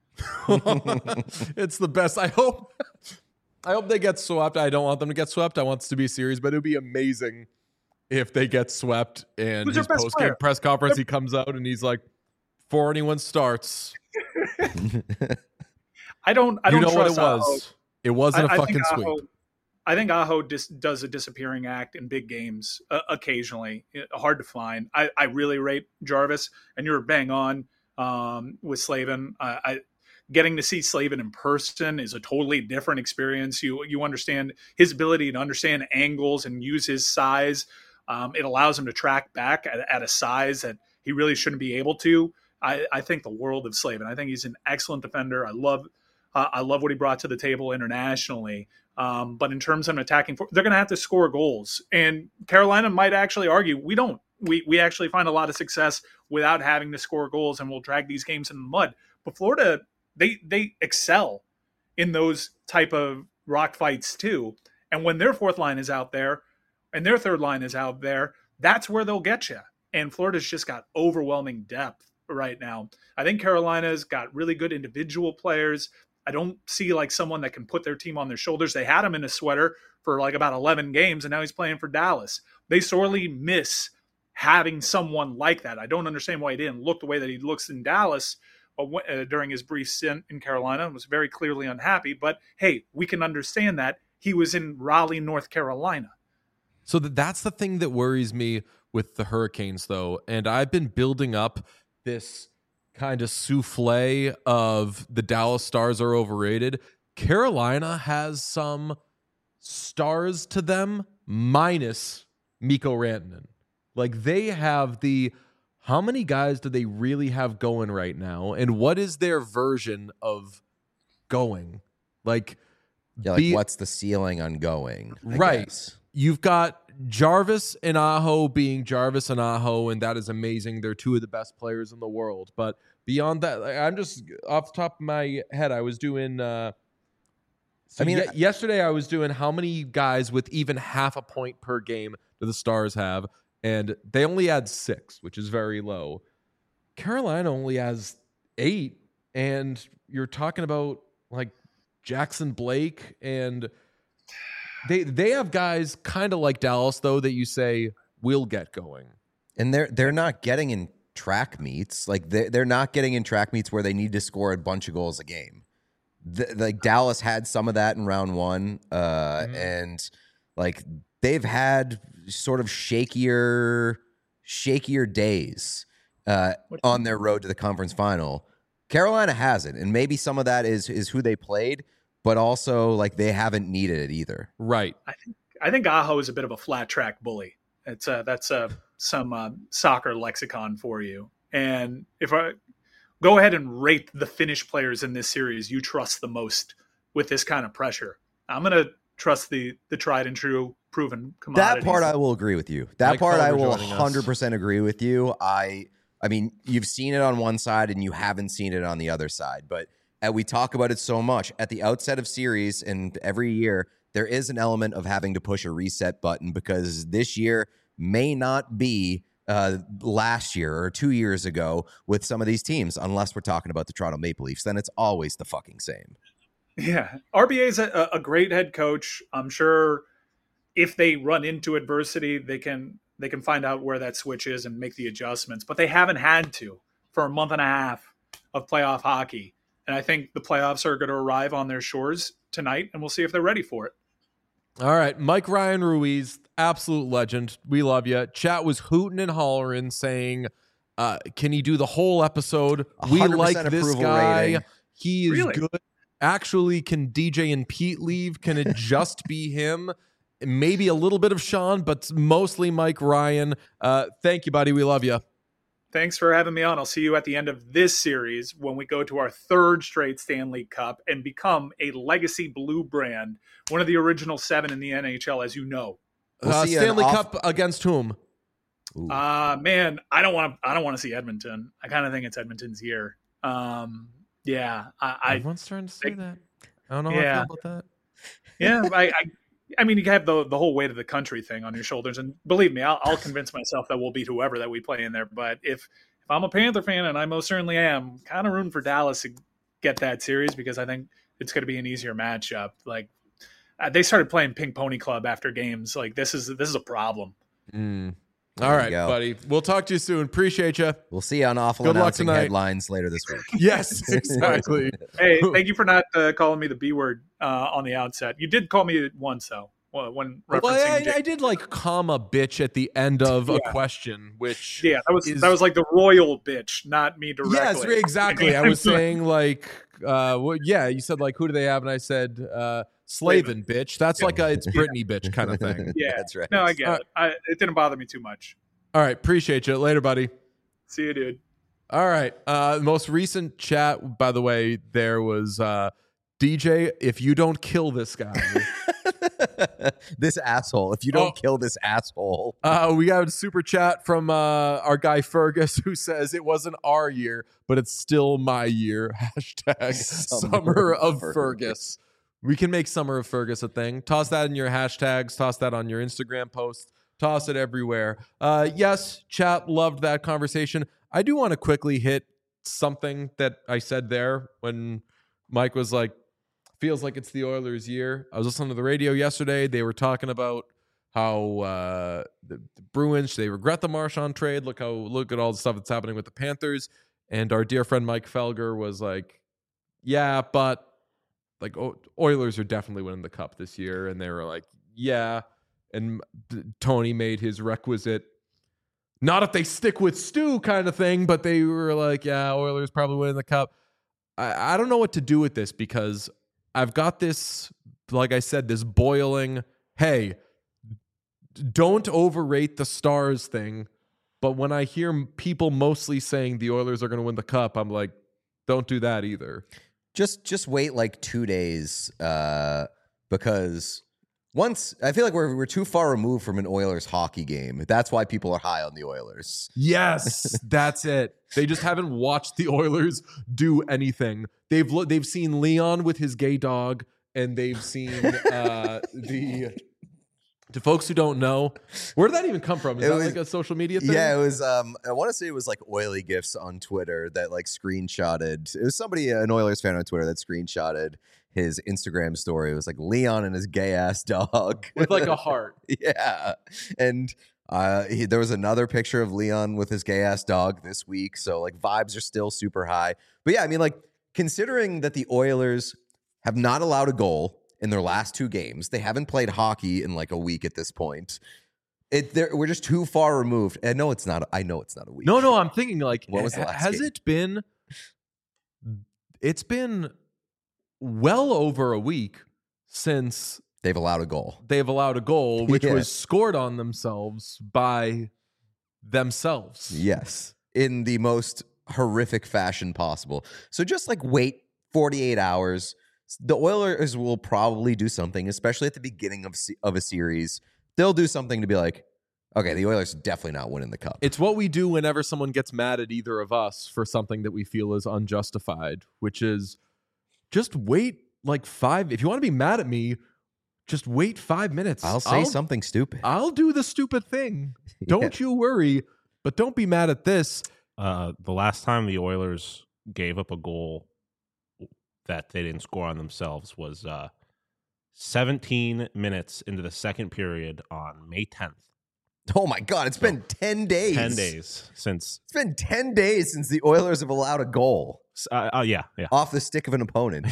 It's the best. I hope I hope they get swept. I don't want them to get swept. I want this to be a series, but it would be amazing if they get swept and Who's their his best post-game player? press conference, he comes out and he's like, before anyone starts, I don't. I you don't know what it trust Aho. was. It wasn't I- a I think fucking Aho- sweep. I think Aho dis- does a disappearing act in big games uh, occasionally. It- hard to find. I, I really rate Jarvis, and you're bang on um, with Slavin. I, I getting to see Slavin in person is a totally different experience. You you understand his ability to understand angles and use his size. Um, it allows him to track back at, at a size that he really shouldn't be able to. I, I think the world of Slavin. I think he's an excellent defender. I love uh, I love what he brought to the table internationally. Um, but in terms of an attacking, they're going to have to score goals. And Carolina might actually argue, we don't. We we actually find a lot of success without having to score goals, and we'll drag these games in the mud. But Florida, they they excel in those type of rock fights too. And when their fourth line is out there and their third line is out there, that's where they'll get you. And Florida's just got overwhelming depth right now. I think Carolina's got really good individual players. I don't see like someone that can put their team on their shoulders. They had him in a sweater for like about eleven games, and now he's playing for Dallas. They sorely miss having someone like that. I don't understand why he didn't look the way that he looks in Dallas uh, during his brief stint in Carolina, and was very clearly unhappy. But hey, we can understand that. He was in Raleigh, North Carolina. So th- that's the thing that worries me with the Hurricanes, though. And I've been building up this kind of souffle of the Dallas Stars are overrated. Carolina has some stars to them, minus Mikko Rantanen. Like, they have the, how many guys do they really have going right now? And what is their version of going? Like, Yeah, like be- what's the ceiling on going? I Right. guess. You've got Jarvis and Aho being Jarvis and Aho, and that is amazing. They're two of the best players in the world. But beyond that, like, I'm just off the top of my head, I was doing. Uh, so I mean, ye- yesterday I was doing how many guys with even half a point per game do the Stars have, and they only had six, which is very low. Carolina only has eight, and you're talking about like Jackson Blake and. They they have guys kind of like Dallas, though, that you say will get going. And they're they're not getting in track meets. Like they they're not getting in track meets where they need to score a bunch of goals a game. The, like Dallas had some of that in round one, uh, Mm-hmm. and like they've had sort of shakier shakier days uh, on their road to the conference final. Carolina hasn't, and maybe some of that is is who they played. But also, like, they haven't needed it either. Right. I think I think Aho is a bit of a flat track bully. It's a, that's a, some uh, soccer lexicon for you. And if I go ahead and rate the Finnish players in this series you trust the most with this kind of pressure, I'm going to trust the the tried and true proven commodities. That part I will agree with you. That Mike part I Carver will joining us. one hundred percent agree with you. I I mean, you've seen it on one side and you haven't seen it on the other side. But and we talk about it so much at the outset of series and every year, there is an element of having to push a reset button because this year may not be uh, last year or two years ago with some of these teams, unless we're talking about the Toronto Maple Leafs. Then it's always the fucking same. Yeah. R B A is a, a great head coach. I'm sure if they run into adversity, they can they can find out where that switch is and make the adjustments. But they haven't had to for a month and a half of playoff hockey. And I think the playoffs are going to arrive on their shores tonight, and we'll see if they're ready for it. All right, Mike Ryan Ruiz, absolute legend. We love you. Chat was hooting and hollering, saying, uh, "Can he do the whole episode? We like this guy. Rating. He is Really? good. Actually, can D J and Pete leave? Can it just be him? Maybe a little bit of Sean, but mostly Mike Ryan. Uh, thank you, buddy. We love you." Thanks for having me on. I'll see you at the end of this series when we go to our third straight Stanley Cup and become a legacy blue brand, one of the original seven in the N H L, as you know. We'll uh, see you Stanley off- Cup against whom? Ooh. Uh man, I don't want to. I don't want to see Edmonton. I kind of think it's Edmonton's year. Um, yeah, I, I Everyone's starting to say I- that. I don't know Yeah. how I feel about that. yeah, I, I, I mean, you have the the whole weight of the country thing on your shoulders, and believe me, I'll, I'll convince myself that we'll beat whoever that we play in there. But if if I'm a Panther fan, and I most certainly am, kind of rooting for Dallas to get that series because I think it's going to be an easier matchup. Like uh, they started playing Pink Pony Club after games. Like this is this is a problem. Mm. There All you right, go. buddy. We'll talk to you soon. Appreciate you. We'll see you on Awful Good luck Announcing tonight. Headlines later this week. Yes, exactly. Hey, thank you for not uh, calling me the B word uh, on the outset. You did call me it once though, well, when referencing. Well, I, Jake. I did like comma bitch at the end of a Yeah. question, which Yeah, that was is- that was like the royal bitch, not me directly. yes, exactly. I was saying like, uh, well, yeah, you said like, who do they have? And I said, uh, Slavin, bitch. That's like a it's Britney bitch kind of thing. Yeah. That's right. No, I get Uh, it. I, it didn't bother me too much. All right, appreciate you. Later, buddy. See you, dude. All right. Uh, most recent chat, by the way, there was uh, D J. If you don't kill this guy, This asshole. If you don't Oh. kill this asshole. uh, we got a super chat from uh, our guy Fergus who says it wasn't our year, but it's still my year. Hashtag Summer Summer of of Fergus. Fergus. We can make Summer of Fergus a thing. Toss that in your hashtags. Toss that on your Instagram post. Toss it everywhere. Uh, yes, chat loved that conversation. I do want to quickly hit something that I said there when Mike was like, feels like it's the Oilers' year. I was listening to the radio yesterday. They were talking about how uh, the, the Bruins, they regret the Marchand trade. Look how look at all the stuff that's happening with the Panthers. And our dear friend Mike Felger was like, yeah, but like o- Oilers are definitely winning the cup this year. And they were like, yeah. And d- Tony made his requisite, not if they stick with Stu kind of thing, but they were like, yeah, Oilers probably winning the cup. I, I don't know what to do with this because I've got this, like I said, this boiling, hey, don't overrate the Stars thing. But when I hear m- people mostly saying the Oilers are going to win the cup, I'm like, don't do that either. Just just wait like two days uh, because once I feel like we're we're too far removed from an Oilers hockey game. That's why people are high on the Oilers. Yes, that's it. They just haven't watched the Oilers do anything. They've lo- they've seen Leon with his gay dog, and they've seen uh, the. To folks who don't know, where did that even come from? Is It that was- like a social media thing? Yeah, it was. Um, I want to say it was like oily gifs on Twitter that like screenshotted. It was somebody, an Oilers fan on Twitter, that screenshotted his Instagram story. It was like Leon and his gay ass dog with like a heart. yeah, and uh, he, there was another picture of Leon with his gay ass dog this week. So like vibes are still super high. But yeah, I mean, like considering that the Oilers have not allowed a goal in their last two games, they haven't played hockey in like a week at this point. It they're- we're just too far removed. I know it's not. I know it's not a week. No, no, I'm thinking like, What was the ha- last has game? it been? It's been well over a week since They've allowed a goal. they've allowed a goal, which Yeah. was scored on themselves by themselves. Yes, in the most horrific fashion possible. So just like wait forty-eight hours. The Oilers will probably do something, especially at the beginning of se- of a series. They'll do something to be like, okay, the Oilers are definitely not winning the cup. It's what we do whenever someone gets mad at either of us for something that we feel is unjustified, which is just wait like five. If you want to be mad at me, just wait five minutes. I'll say something stupid. I'll do the stupid thing. Don't you worry, but don't be mad at this. Uh, the last time the Oilers gave up a goal that they didn't score on themselves was uh, seventeen minutes into the second period on May tenth. Oh my God, it's been ten days. ten days since. It's been ten days since the Oilers have allowed a goal Uh, uh, yeah, yeah. off the stick of an opponent.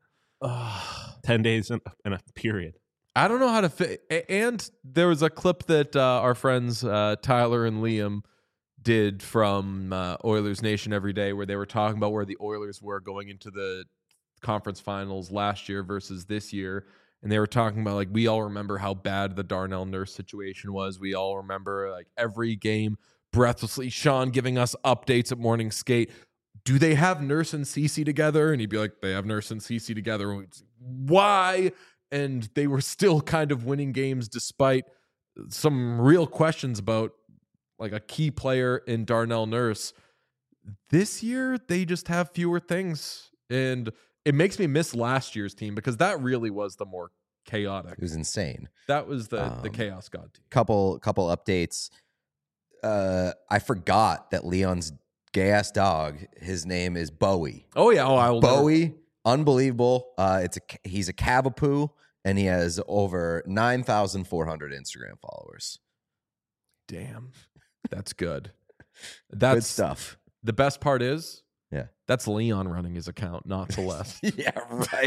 ten days in, in a period. I don't know how to fit. And there was a clip that uh, our friends uh, Tyler and Liam did from uh, Oilers Nation Every Day, where they were talking about where the Oilers were going into the conference finals last year versus this year. And they were talking about, like, we all remember how bad the Darnell Nurse situation was. We all remember, like, every game breathlessly, Sean giving us updates at morning skate. Do they have Nurse and Cece together? And he'd be like, they have Nurse and Cece together. And we'd say, why? And they were still kind of winning games despite some real questions about, like, a key player in Darnell Nurse. This year, they just have fewer things. And it makes me miss last year's team because that really was the more chaotic. It was insane. That was the, Um, the Chaos God team. Couple couple updates. Uh, I forgot that Leon's gay ass dog, his name is Bowie. Oh, yeah. Oh, I will never- Bowie, unbelievable. Uh, it's a he's a Cavapoo, and he has over nine thousand four hundred Instagram followers. Damn. That's good. Good That's stuff. The best part is, Yeah. that's Leon running his account, not Celeste. Yeah, right.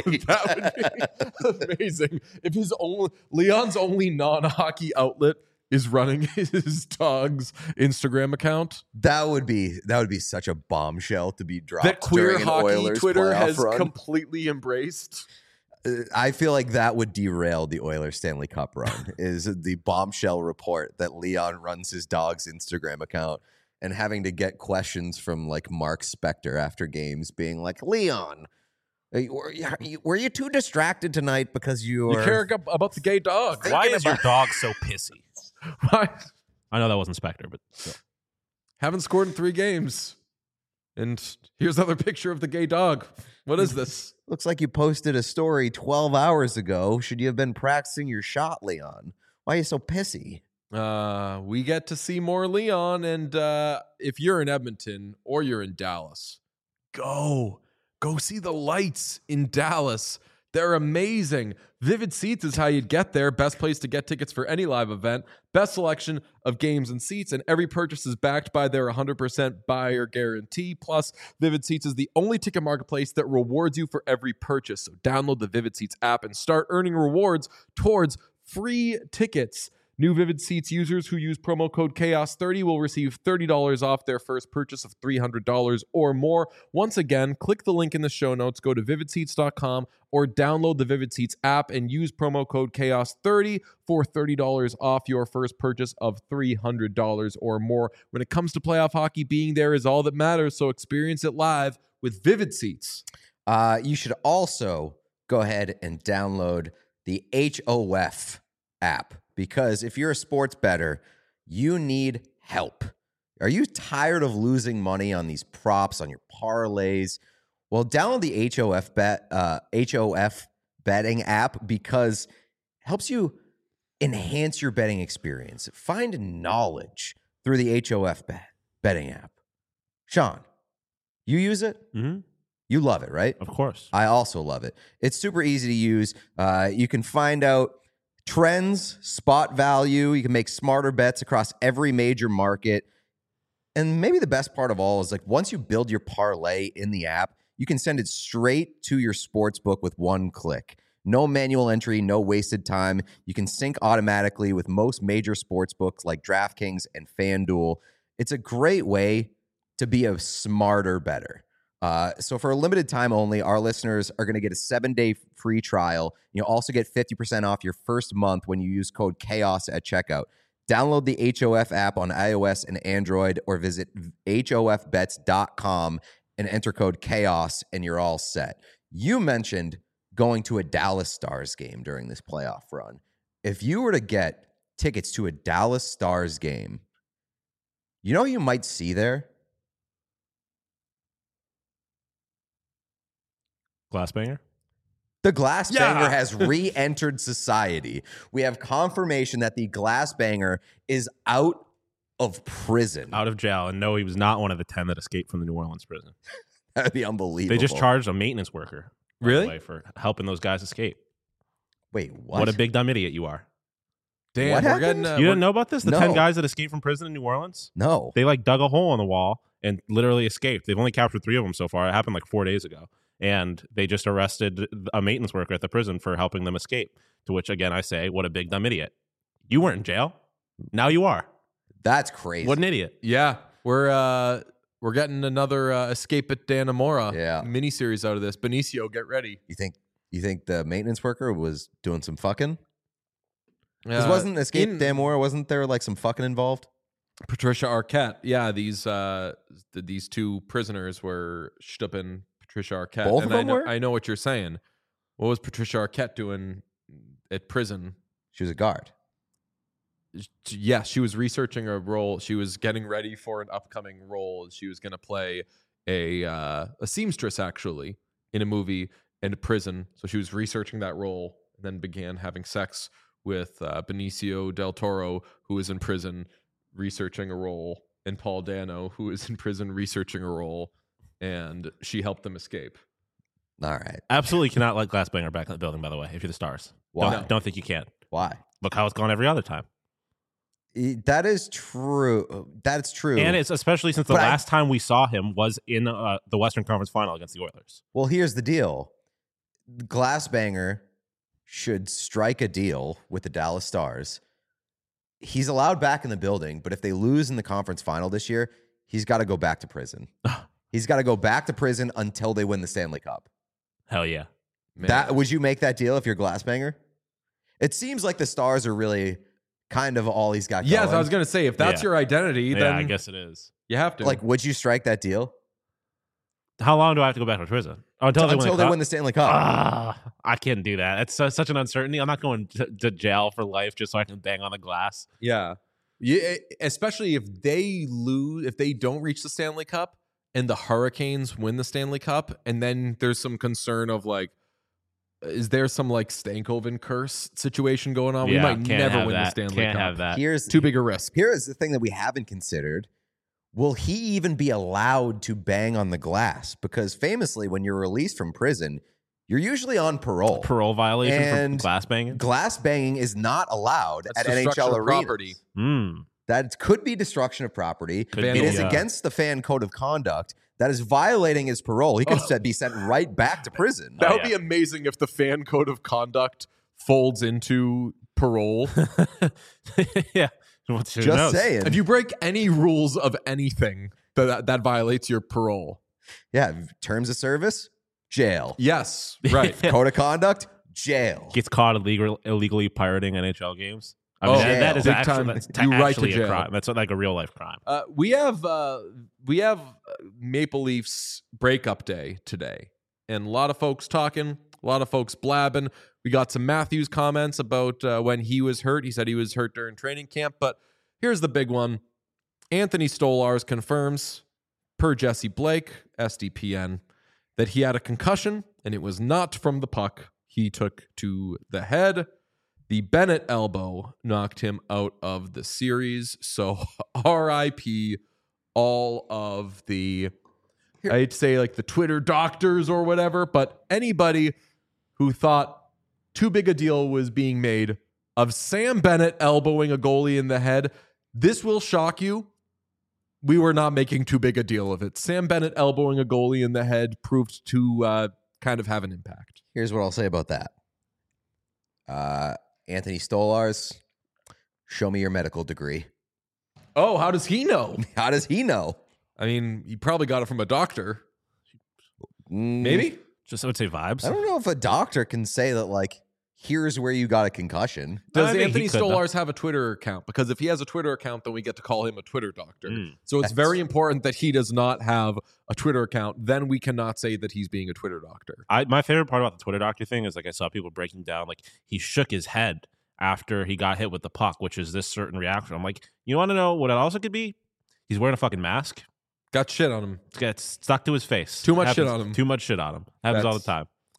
That would be amazing if his only Leon's only non-hockey outlet is running his dog's Instagram account. That would be that would be such a bombshell to be dropped. That queer during an hockey Oilers Twitter playoff has run. completely embraced. Uh, I feel like that would derail the Oilers Stanley Cup run. Is the bombshell report that Leon runs his dog's Instagram account and having to get questions from like Mark Spector after games, being like, Leon, are you- were you, were you too distracted tonight because you You were care ab- about the gay dog. Thinking Why is your about- dog so pissy? Why? I know that wasn't Spectre, but still. Haven't scored in three games. And here's another picture of the gay dog. What is this? Looks like you posted a story twelve hours ago. Should you have been practicing your shot, Leon? Why are you so pissy? Uh, we get to see more Leon, and uh, if you're in Edmonton or you're in Dallas, go. Go see the lights in Dallas. They're amazing. Vivid Seats is how you'd get there. Best place to get tickets for any live event. Best selection of games and seats, and every purchase is backed by their one hundred percent buyer guarantee. Plus, Vivid Seats is the only ticket marketplace that rewards you for every purchase. So download the Vivid Seats app and start earning rewards towards free tickets. New Vivid Seats users who use promo code chaos thirty will receive thirty dollars off their first purchase of three hundred dollars or more. Once again, click the link in the show notes, go to vivid seats dot com or download the Vivid Seats app and use promo code chaos thirty for thirty dollars off your first purchase of three hundred dollars or more. When it comes to playoff hockey, being there is all that matters, so experience it live with Vivid Seats. Uh, you should also go ahead and download the H O F app, because if you're a sports bettor, you need help. Are you tired of losing money on these props, on your parlays? Well, download the H O F bet uh, H O F betting app, because it helps you enhance your betting experience. Find knowledge through the H O F bet, betting app. Sean, you use it? Mm-hmm. You love it, right? Of course. I also love it. It's super easy to use. Uh, you can find out trends, spot value. You can make smarter bets across every major market. And maybe the best part of all is, like, once you build your parlay in the app, you can send it straight to your sports book with one click. No manual entry, no wasted time. You can sync automatically with most major sports books like DraftKings and FanDuel. It's a great way to be a smarter bettor. Uh, so for a limited time only, our listeners are going to get a seven-day free trial. You'll also get fifty percent off your first month when you use code CHAOS at checkout. Download the H O F app on iOS and Android, or visit H O F bets dot com and enter code CHAOS, and you're all set. You mentioned going to a Dallas Stars game during this playoff run. If you were to get tickets to a Dallas Stars game, you know who you might see there? Glassbanger? The Glass Yeah. Banger has re-entered society. We have confirmation that the Glass Banger is out of prison. Out of jail. And no, he was not one of the ten that escaped from the New Orleans prison. That'd be unbelievable. They just charged a maintenance worker. by the Really? way, for helping those guys escape. Wait, what? What, a big dumb idiot you are. Damn, What we're happened? getting. Uh, you we're- didn't know about this? The No. ten guys that escaped from prison in New Orleans? No. They like dug a hole in the wall and literally escaped. They've only captured three of them so far. It happened like four days ago. And they just arrested a maintenance worker at the prison for helping them escape. To which, again, I say, what a big dumb idiot. You weren't in jail. Now you are. That's crazy. What an idiot. Yeah, we're uh, we're getting another uh, Escape at Dannemora Yeah. miniseries out of this. Benicio, get ready. You think you think the maintenance worker was doing some fucking? Because Uh, wasn't Escape in- Damora, wasn't there like some fucking involved? Patricia Arquette. Yeah, these uh, th- these two prisoners were Stuppen, Patricia Arquette. Both and of I them know, were? I know what you're saying. What was Patricia Arquette doing at prison? She was a guard. Yes, she was researching a role. She was getting ready for an upcoming role. She was going to play a uh, a seamstress, actually, in a movie in a prison. So she was researching that role, and then began having sex with uh, Benicio del Toro, who was in prison researching a role, and Paul Dano, who is in prison researching a role, and she helped them escape. All right. Absolutely cannot let Glassbanger back in the building, by the way, if you're the Stars. Why? Don't, don't think you can. Why? Look how it's gone every other time. E- That is true. That's true. And it's especially since the But I- last time we saw him was in uh, the Western Conference Final against the Oilers. Well, here's the deal. Glassbanger should strike a deal with the Dallas Stars. He's allowed back in the building, but if they lose in the conference final this year, he's got to go back to prison. He's got to go back to prison until they win the Stanley Cup. Hell yeah. Man. That would you make that deal if you're Glassbanger? It seems like the Stars are really kind of all he's got going. Yes, I was going to say, if that's Yeah. your identity, Yeah, then I guess it is. you have to. like, would you strike that deal How long do I have to go back to prison? Oh, until, until, they, win they the win the Stanley Cup? Ah, I can't do that. It's su- such an uncertainty. I'm not going to, to jail for life just so I can bang on the glass. Yeah. Yeah, especially if they lose, if they don't reach the Stanley Cup and the Hurricanes win the Stanley Cup, and then there's some concern of like, is there some like Stankoven curse situation going on? we Yeah, might can't never have win that. the Stanley Can't Cup. have that. Here's Too big a risk. Here is the thing that we haven't considered. Will he even be allowed to bang on the glass? Because famously, when you're released from prison, you're usually on parole. Parole violation And for glass banging. Glass banging is not allowed That's at N H destruction L of arenas. property. Mm. That could be destruction of property. Could it be, is yeah. against the fan code of conduct. That is violating his parole. He could Oh. be sent right back to prison. That Oh, would yeah. be amazing if the fan code of conduct folds into parole. Yeah. What's- who Just knows? saying. If you break any rules of anything, that that violates your parole. yeah, terms of service, jail. Yes, right. Code of conduct, jail. Gets caught illegal, illegally pirating N H L games. I Oh, mean, that, that is big actually, time. that's You right to actually a jail. crime. That's like a real life crime. Uh, we have uh, we have uh, Maple Leafs breakup day today, and a lot of folks talking, a lot of folks blabbing. We got some Matthews comments about uh, when he was hurt. He said he was hurt during training camp, but here's the big one: Anthony Stolarz confirms, per Jesse Blake, S D P N, that he had a concussion and it was not from the puck he took to the head. The Bennett elbow knocked him out of the series. So R I P all of the, I'd say like the Twitter doctors or whatever, but anybody who thought too big a deal was being made of Sam Bennett elbowing a goalie in the head. This will shock you. We were not making too big a deal of it. Sam Bennett elbowing a goalie in the head proved to uh, kind of have an impact. Here's what I'll say about that. Uh, Anthony Stolarz, show me your medical degree. Oh, how does he know? How does he know? I mean, he probably got it from a doctor. Mm, Maybe. Just I would say vibes. I don't know if a doctor can say that, like, here's where you got a concussion. Does I think Anthony he could, though. Stolarz have a Twitter account? Because if he has a Twitter account, then we get to call him a Twitter doctor. Mm. So it's That's- very important that he does not have a Twitter account. Then we cannot say that he's being a Twitter doctor. I, my favorite part about the Twitter doctor thing is like I saw people breaking down like he shook his head after he got hit with the puck, which is this certain reaction. I'm like, you want to know what it also could be? He's wearing a fucking mask. Got shit on him. It's got stuck to his face. Too much Happens- shit on him. Too much shit on him. Happens all the That's- time.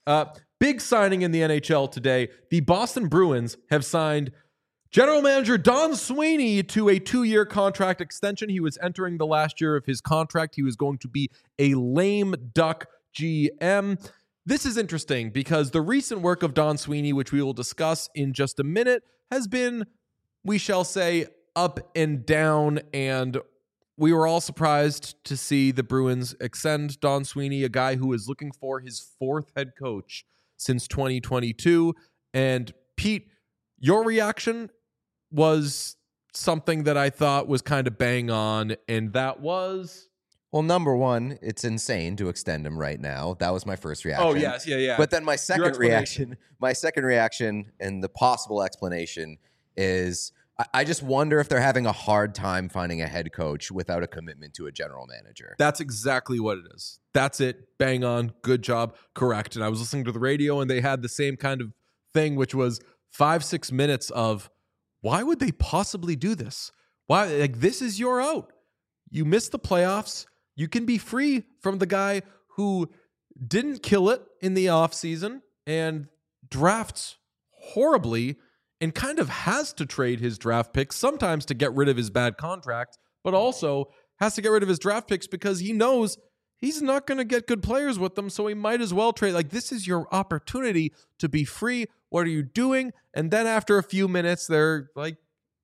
Uh, big signing in the N H L today. The Boston Bruins have signed general manager Don Sweeney to a two-year contract extension. He was entering the last year of his contract. He was going to be a lame duck G M. This is interesting because the recent work of Don Sweeney, which we will discuss in just a minute, has been, we shall say, up and down, and we were all surprised to see the Bruins extend Don Sweeney, a guy who is looking for his fourth head coach since twenty twenty-two. And Pete, your reaction was something that I thought was kind of bang on, and that was... Well, number one, it's insane to extend him right now. That was my first reaction. Oh, yes, yeah, yeah. But then my second explanation. reaction, my second reaction and the possible explanation is I, I just wonder if they're having a hard time finding a head coach without a commitment to a general manager. That's exactly what it is. That's it. Bang on. Good job. Correct. And I was listening to the radio, and they had the same kind of thing, which was five, six minutes of, why would they possibly do this? Why? Like, this is your out. You missed the playoffs. You can be free from the guy who didn't kill it in the offseason and drafts horribly and kind of has to trade his draft picks sometimes to get rid of his bad contract, but also has to get rid of his draft picks because he knows he's not going to get good players with them, so he might as well trade. Like, this is your opportunity to be free. What are you doing? And then after a few minutes, they're like,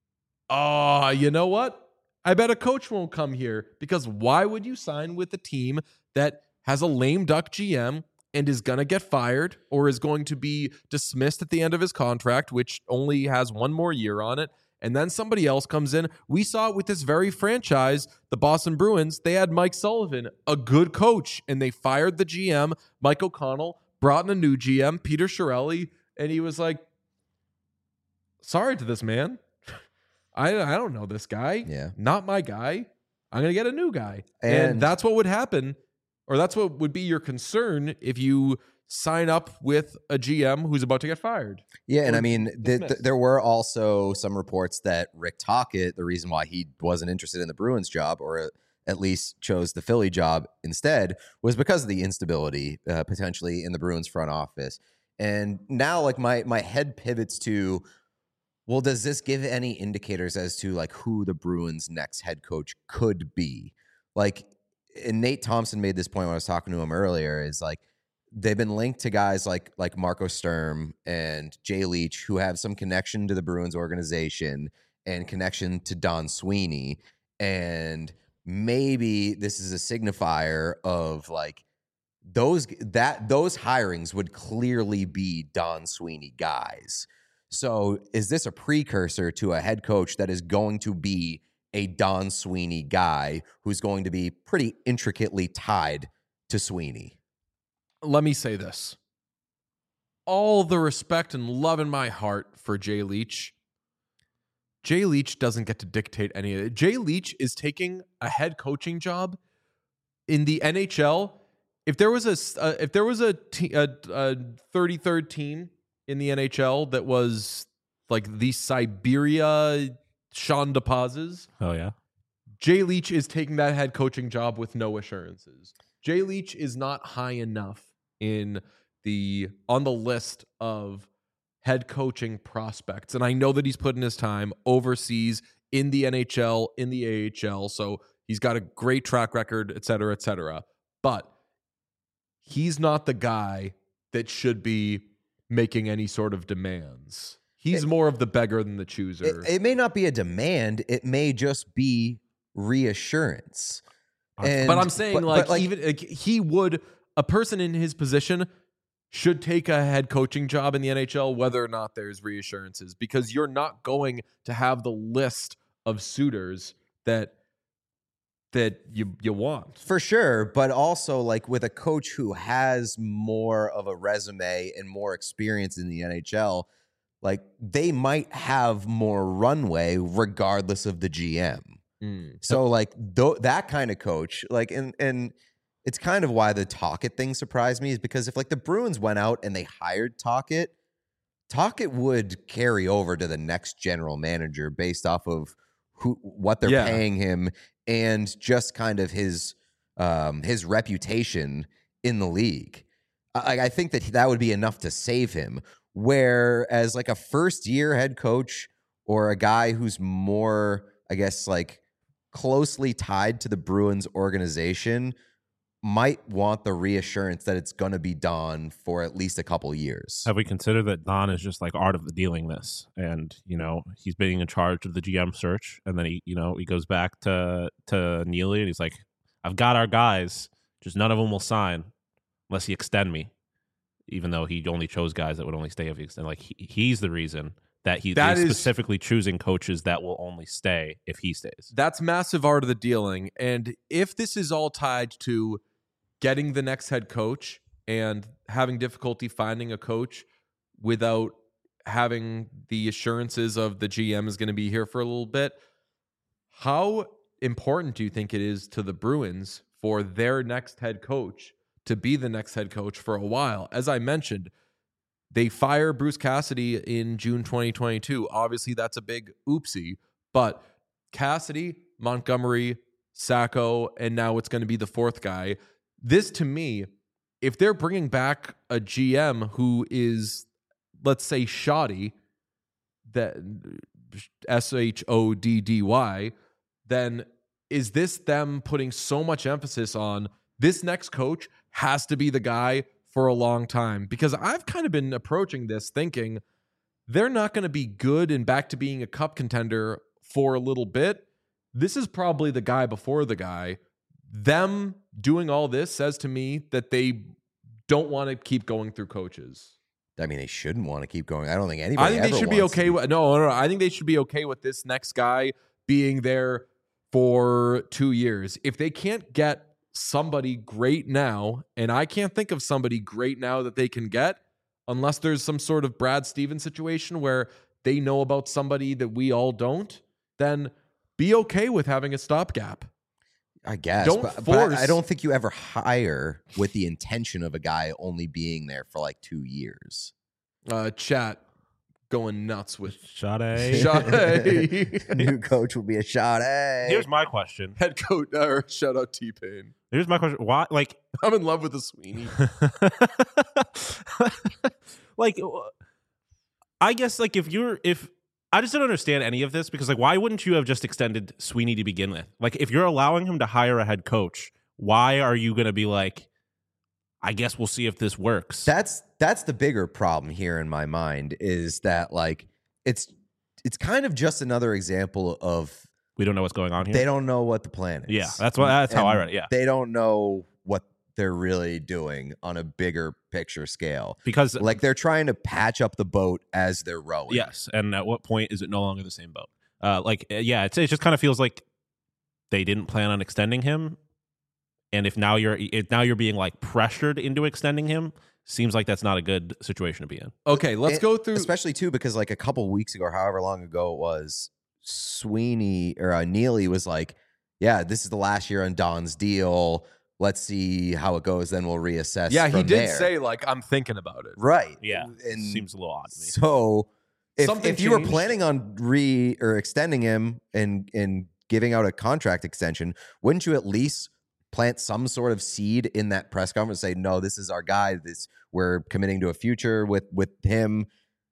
oh, you know what? I bet a coach won't come here, because why would you sign with a team that has a lame duck G M and is going to get fired or is going to be dismissed at the end of his contract, which only has one more year on it, and then somebody else comes in? We saw it with this very franchise, the Boston Bruins. They had Mike Sullivan, a good coach, and they fired the G M, Mike O'Connell, brought in a new G M, Peter Chiarelli, and he was like, sorry to this man. I, I don't know this guy. Yeah. Not my guy. I'm going to get a new guy. And, And- that's what would happen, or that's what would be your concern if you sign up with a G M who's about to get fired. Yeah, and Or I mean, th- th- dismissed. there were also some reports that Rick Tocchet, the reason why he wasn't interested in the Bruins job, or at least chose the Philly job instead, was because of the instability uh, potentially in the Bruins front office. And now, like, my my head pivots to, well, does this give any indicators as to like who the Bruins' next head coach could be? Like, and Nate Thompson made this point when I was talking to him earlier, is like, they've been linked to guys like like Marco Sturm and Jay Leach, who have some connection to the Bruins organization and connection to Don Sweeney. And maybe this is a signifier of like those that those hirings would clearly be Don Sweeney guys. So is this a precursor to a head coach that is going to be a Don Sweeney guy who's going to be pretty intricately tied to Sweeney? Let me say this. All the respect and love in my heart for Jay Leach. Jay Leach doesn't get to dictate any of it. Jay Leach is taking a head coaching job in the N H L. If there was a uh, if there was a, te- a, a thirty-third team in the N H L that was like the Siberia Sean DePazes, Oh, yeah. Jay Leach is taking that head coaching job with no assurances. Jay Leach is not high enough in the on the list of head coaching prospects. And I know that he's put in his time overseas in the N H L, in the A H L. So he's got a great track record, et cetera, et cetera. But he's not the guy that should be making any sort of demands. He's It- more of the beggar than the chooser. It, it may not be a demand. It may just be reassurance. And, but I'm saying, but- like, but, even like, he would, a person in his position should take a head coaching job in the N H L, whether or not there's reassurances, because you're not going to have the list of suitors that that you you want. for sure, but also like with a coach who has more of a resume and more experience in the N H L, like they might have more runway regardless of the G M. Mm. So like th- that kind of coach, like, and and it's kind of why the Tocchet thing surprised me, is because if like the Bruins went out and they hired Tocchet, Tocchet would carry over to the next general manager based off of who what they're Yeah. paying him and just kind of his um, his reputation in the league. I, I think that that would be enough to save him. Whereas like a first year head coach or a guy who's more, I guess, like closely tied to the Bruins organization might want the reassurance that it's going to be done for at least a couple years. Have we considered that Don is just like art of the dealing this, and you know he's being in charge of the G M search, and then he, you know, he goes back to to Neely and he's like, "I've got our guys, just none of them will sign unless you extend me," even though he only chose guys that would only stay if he extend. Like he, he's the reason that he That is is- specifically choosing coaches that will only stay if he stays. That's massive art of the dealing. And if this is all tied to getting the next head coach and having difficulty finding a coach without having the assurances of the G M is going to be here for a little bit, how important do you think it is to the Bruins for their next head coach to be the next head coach for a while? As I mentioned, they fire Bruce Cassidy in June twenty twenty-two. Obviously, that's a big oopsie, but Cassidy, Montgomery, Sacco, and now it's going to be the fourth guy. This, to me, if they're bringing back a G M who is, let's say, shoddy, that S H O D D Y, then is this them putting so much emphasis on this next coach has to be the guy for a long time? Because I've kind of been approaching this thinking they're not going to be good and back to being a cup contender for a little bit. This is probably the guy before the guy. Them doing all this says to me that they don't want to keep going through coaches. I mean, they shouldn't want to keep going. I don't think anybody I think they ever should be wants okay to. with no, no, no. I think they should be okay with this next guy being there for two years. If they can't get somebody great now, and I can't think of somebody great now that they can get, unless there's some sort of Brad Stevens situation where they know about somebody that we all don't, then be okay with having a stopgap. I guess. Don't but, but I- force- I don't think you ever hire with the intention of a guy only being there for like two years. Uh, chat going nuts with Sade. Sade. New coach will be a shot. Hey. Here's my question. Head coach, or shout out T-Pain. Here's my question. Why, like, I'm in love with the Sweeney. like, I guess, like, if you're, if, I just don't understand any of this because, like, why wouldn't you have just extended Sweeney to begin with? Like, if you're allowing him to hire a head coach, why are you going to be like, I guess we'll see if this works? That's that's the bigger problem here in my mind is that like it's it's kind of just another example of we don't know what's going on here. they don't know what the plan is. Yeah, that's what. That's how I And read it. Yeah, They don't know what they're really doing on a bigger picture scale. because Like they're trying to patch up the boat as they're rowing. yes, and at what point is it no longer the same boat? Uh, like, uh, yeah, it's, it just kind of feels like they didn't plan on extending him, and if now you're if now you're being like pressured into extending him, seems like that's not a good situation to be in. Okay, let's And go through. especially too because like a couple weeks ago, or however long ago it was, Sweeney or uh, Neely was like, "Yeah, this is the last year on Don's deal. Let's see how it goes. Then we'll reassess." Yeah, he from did there." say like I'm thinking about it. right. Yeah, and seems a little odd to me. so if, Something if you were changed. planning on re or extending him and and giving out a contract extension, wouldn't you at least plant some sort of seed in that press conference? Say, no, this is our guy. This we're committing to a future with with him.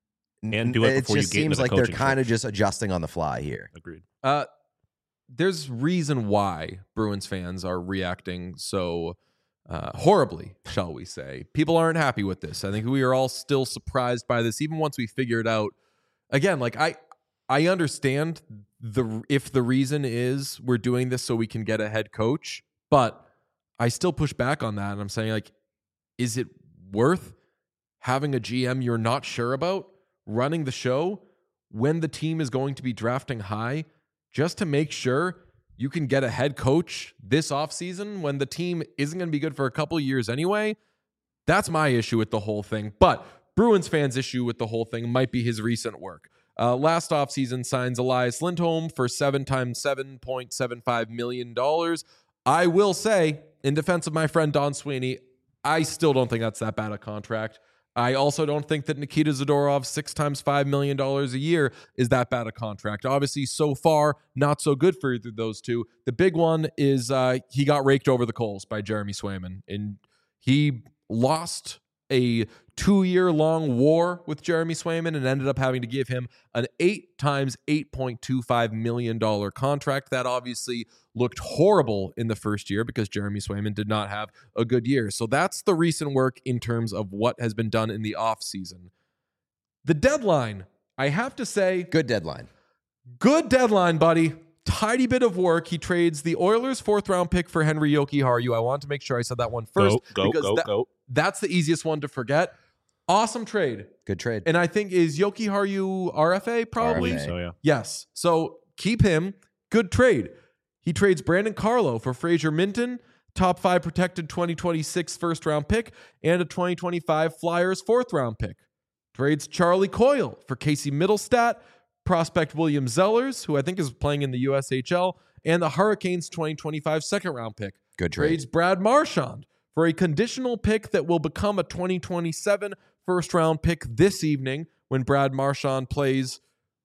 And do it It before you just get into seems the like they're coaching kind of search. just adjusting on the fly here. Agreed. Uh, there's reason why Bruins fans are reacting so uh, horribly, shall we say. People aren't happy with this. I think we are all still surprised by this, even once we figure it out. Again, like I, I understand the if the reason is we're doing this so we can get a head coach, but I still push back on that, and I'm saying like, is it worth having a G M you're not sure about running the show when the team is going to be drafting high just to make sure you can get a head coach this offseason when the team isn't going to be good for a couple of years anyway? That's my issue with the whole thing. But Bruins fans' issue with the whole thing might be his recent work. Uh, last offseason signs Elias Lindholm for seven times seven point seven five million dollars. I will say, in defense of my friend Don Sweeney, I still don't think that's that bad a contract. I also don't think that Nikita Zadorov, six times five million dollars a year, is that bad a contract. Obviously, so far, not so good for either of those two. The big one is uh, he got raked over the coals by Jeremy Swayman, and he lost a two-year-long war with Jeremy Swayman and ended up having to give him an eight times eight point two five million dollars contract. That obviously looked horrible in the first year because Jeremy Swayman did not have a good year. So that's the recent work in terms of what has been done in the offseason. The deadline, I have to say, Good deadline. good deadline, buddy. Tidy bit of work. He trades the Oilers' fourth round pick for Henry Jokiharju. I want to make sure I said that one first. Go, go, because go, that, go. That's the easiest one to forget. Awesome trade. Good trade. And I think, is Jokiharju R F A probably? R F A. So, yeah. Yes. So keep him. Good trade. He trades Brandon Carlo for Fraser Minton, top five protected twenty twenty-six first round pick, and a twenty twenty-five Flyers fourth round pick. Trades Charlie Coyle for Casey Middlestat, prospect William Zellers, who I think is playing in the U S H L, and the Hurricanes twenty twenty-five second round pick. Good trade. Trades Brad Marchand for a conditional pick that will become a twenty twenty-seven first round pick this evening when Brad Marchand plays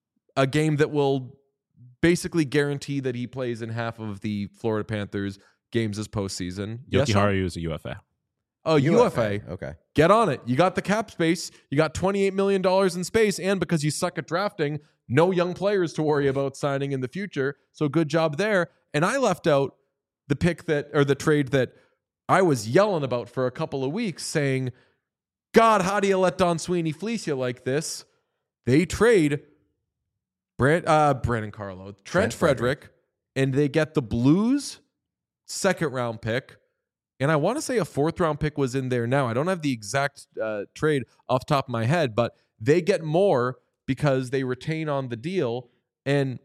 a game that will basically guarantee that he plays in half of the Florida Panthers games this postseason. Yes, Sean? Jokiharju is a U F A. Oh, U F A. Okay. Get on it. You got the cap space. You got twenty-eight million dollars in space. And because you suck at drafting, no young players to worry about signing in the future. So good job there. And I left out the pick that, or the trade that I was yelling about for a couple of weeks saying, God, how do you let Don Sweeney fleece you like this? They trade Brand, uh, Brandon Carlo, Trent, Trent Frederick, Frederick, and they get the Blues second round pick. And I want to say a fourth round pick was in there now. I don't have the exact uh, trade off the top of my head, but they get more because they retain on the deal. And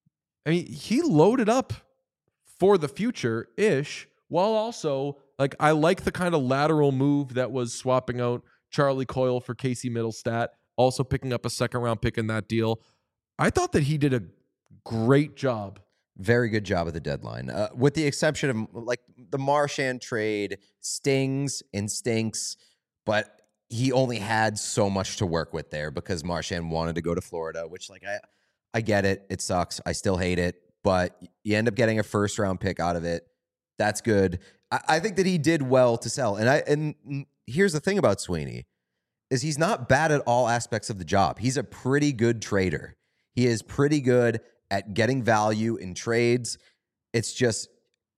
I mean, he loaded up for the future-ish, while also, like, I like the kind of lateral move that was swapping out Charlie Coyle for Casey Middlestat, also picking up a second round pick in that deal. I thought that he did a great job. Very good job at the deadline. Uh, with the exception of, like, the Marchand trade stings and stinks, but he only had so much to work with there because Marchand wanted to go to Florida, which, like, I, I get it. It sucks. I still hate it, but you end up getting a first round pick out of it. That's good. I, I think that he did well to sell. And I and here's the thing about Sweeney is he's not bad at all aspects of the job. He's a pretty good trader. He is pretty good at getting value in trades. It's just,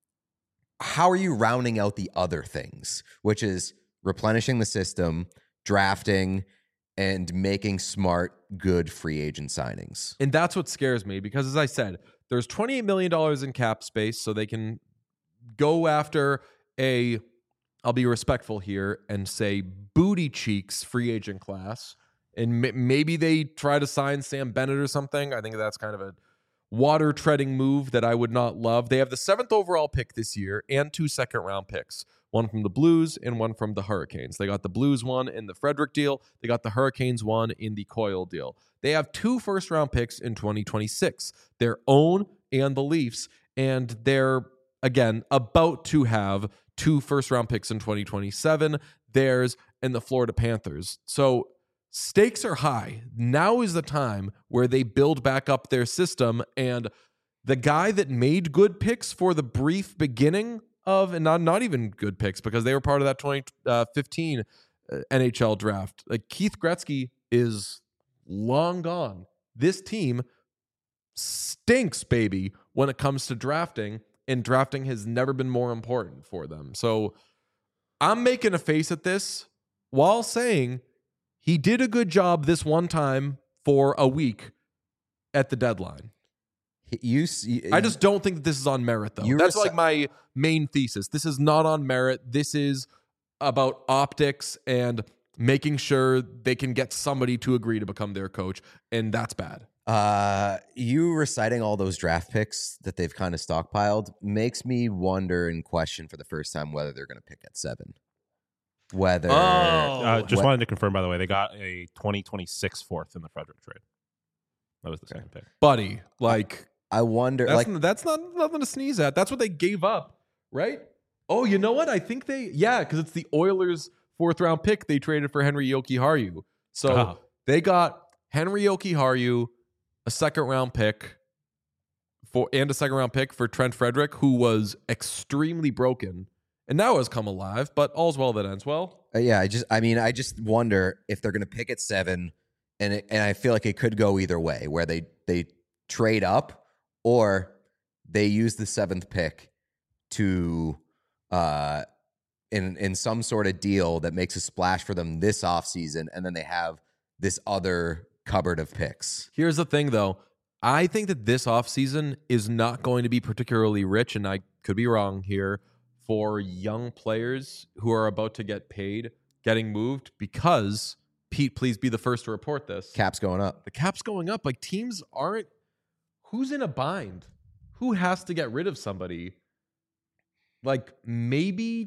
how are you rounding out the other things, which is replenishing the system, drafting, and making smart, good free agent signings. And that's what scares me because, as I said, there's twenty-eight million dollars in cap space, so they can go after a, I'll be respectful here and say booty cheeks free agent class. And m- maybe they try to sign Sam Bennett or something. I think that's kind of a water treading move that I would not love. They have the seventh overall pick this year and two second round picks, one from the Blues and one from the Hurricanes. They got the Blues one in the Frederick deal. They got the Hurricanes one in the Coyle deal. They have two first round picks in twenty twenty-six, their own and the Leafs. And they're, again, about to have two first round picks in twenty twenty-seven, theirs and the Florida Panthers. So stakes are high. Now is the time where they build back up their system. And the guy that made good picks for the brief beginning of, and not, not even good picks because they were part of that twenty fifteen N H L draft, like Keith Gretzky is long gone. This team stinks, baby, when it comes to drafting, and drafting has never been more important for them. So I'm making a face at this while saying he did a good job this one time for a week at the deadline. You, you, I just don't think that this is on merit, though. That's reci- like my main thesis. This is not on merit. This is about optics and making sure they can get somebody to agree to become their coach, and that's bad. Uh, you reciting all those draft picks that they've kind of stockpiled makes me wonder and question for the first time whether they're going to pick at seven. Whether oh, uh, just what, wanted to confirm, by the way, they got a twenty twenty-six fourth in the Frederick trade. That was the second pick, buddy. Like I wonder, that's, like that's not nothing to sneeze at. That's what they gave up, right? Oh, you know what? I think they yeah, because it's the Oilers' fourth round pick they traded for Henry Jokiharju. So oh. they got Henry Jokiharju, a second round pick for and a second round pick for Trent Frederick, who was extremely broken. and now has come alive, but all's well that ends well. Uh, yeah, I just, I mean, I just wonder if they're going to pick at seven, and it, and I feel like it could go either way, where they they trade up or they use the seventh pick to, uh, in in some sort of deal that makes a splash for them this offseason, and then they have this other cupboard of picks. Here's the thing, though. I think that this offseason is not going to be particularly rich, and I could be wrong here, for young players who are about to get paid getting moved because, Pete, please be the first to report this. Cap's going up. The cap's going up. Like, teams aren't... Who's in a bind? Who has to get rid of somebody? Like, maybe...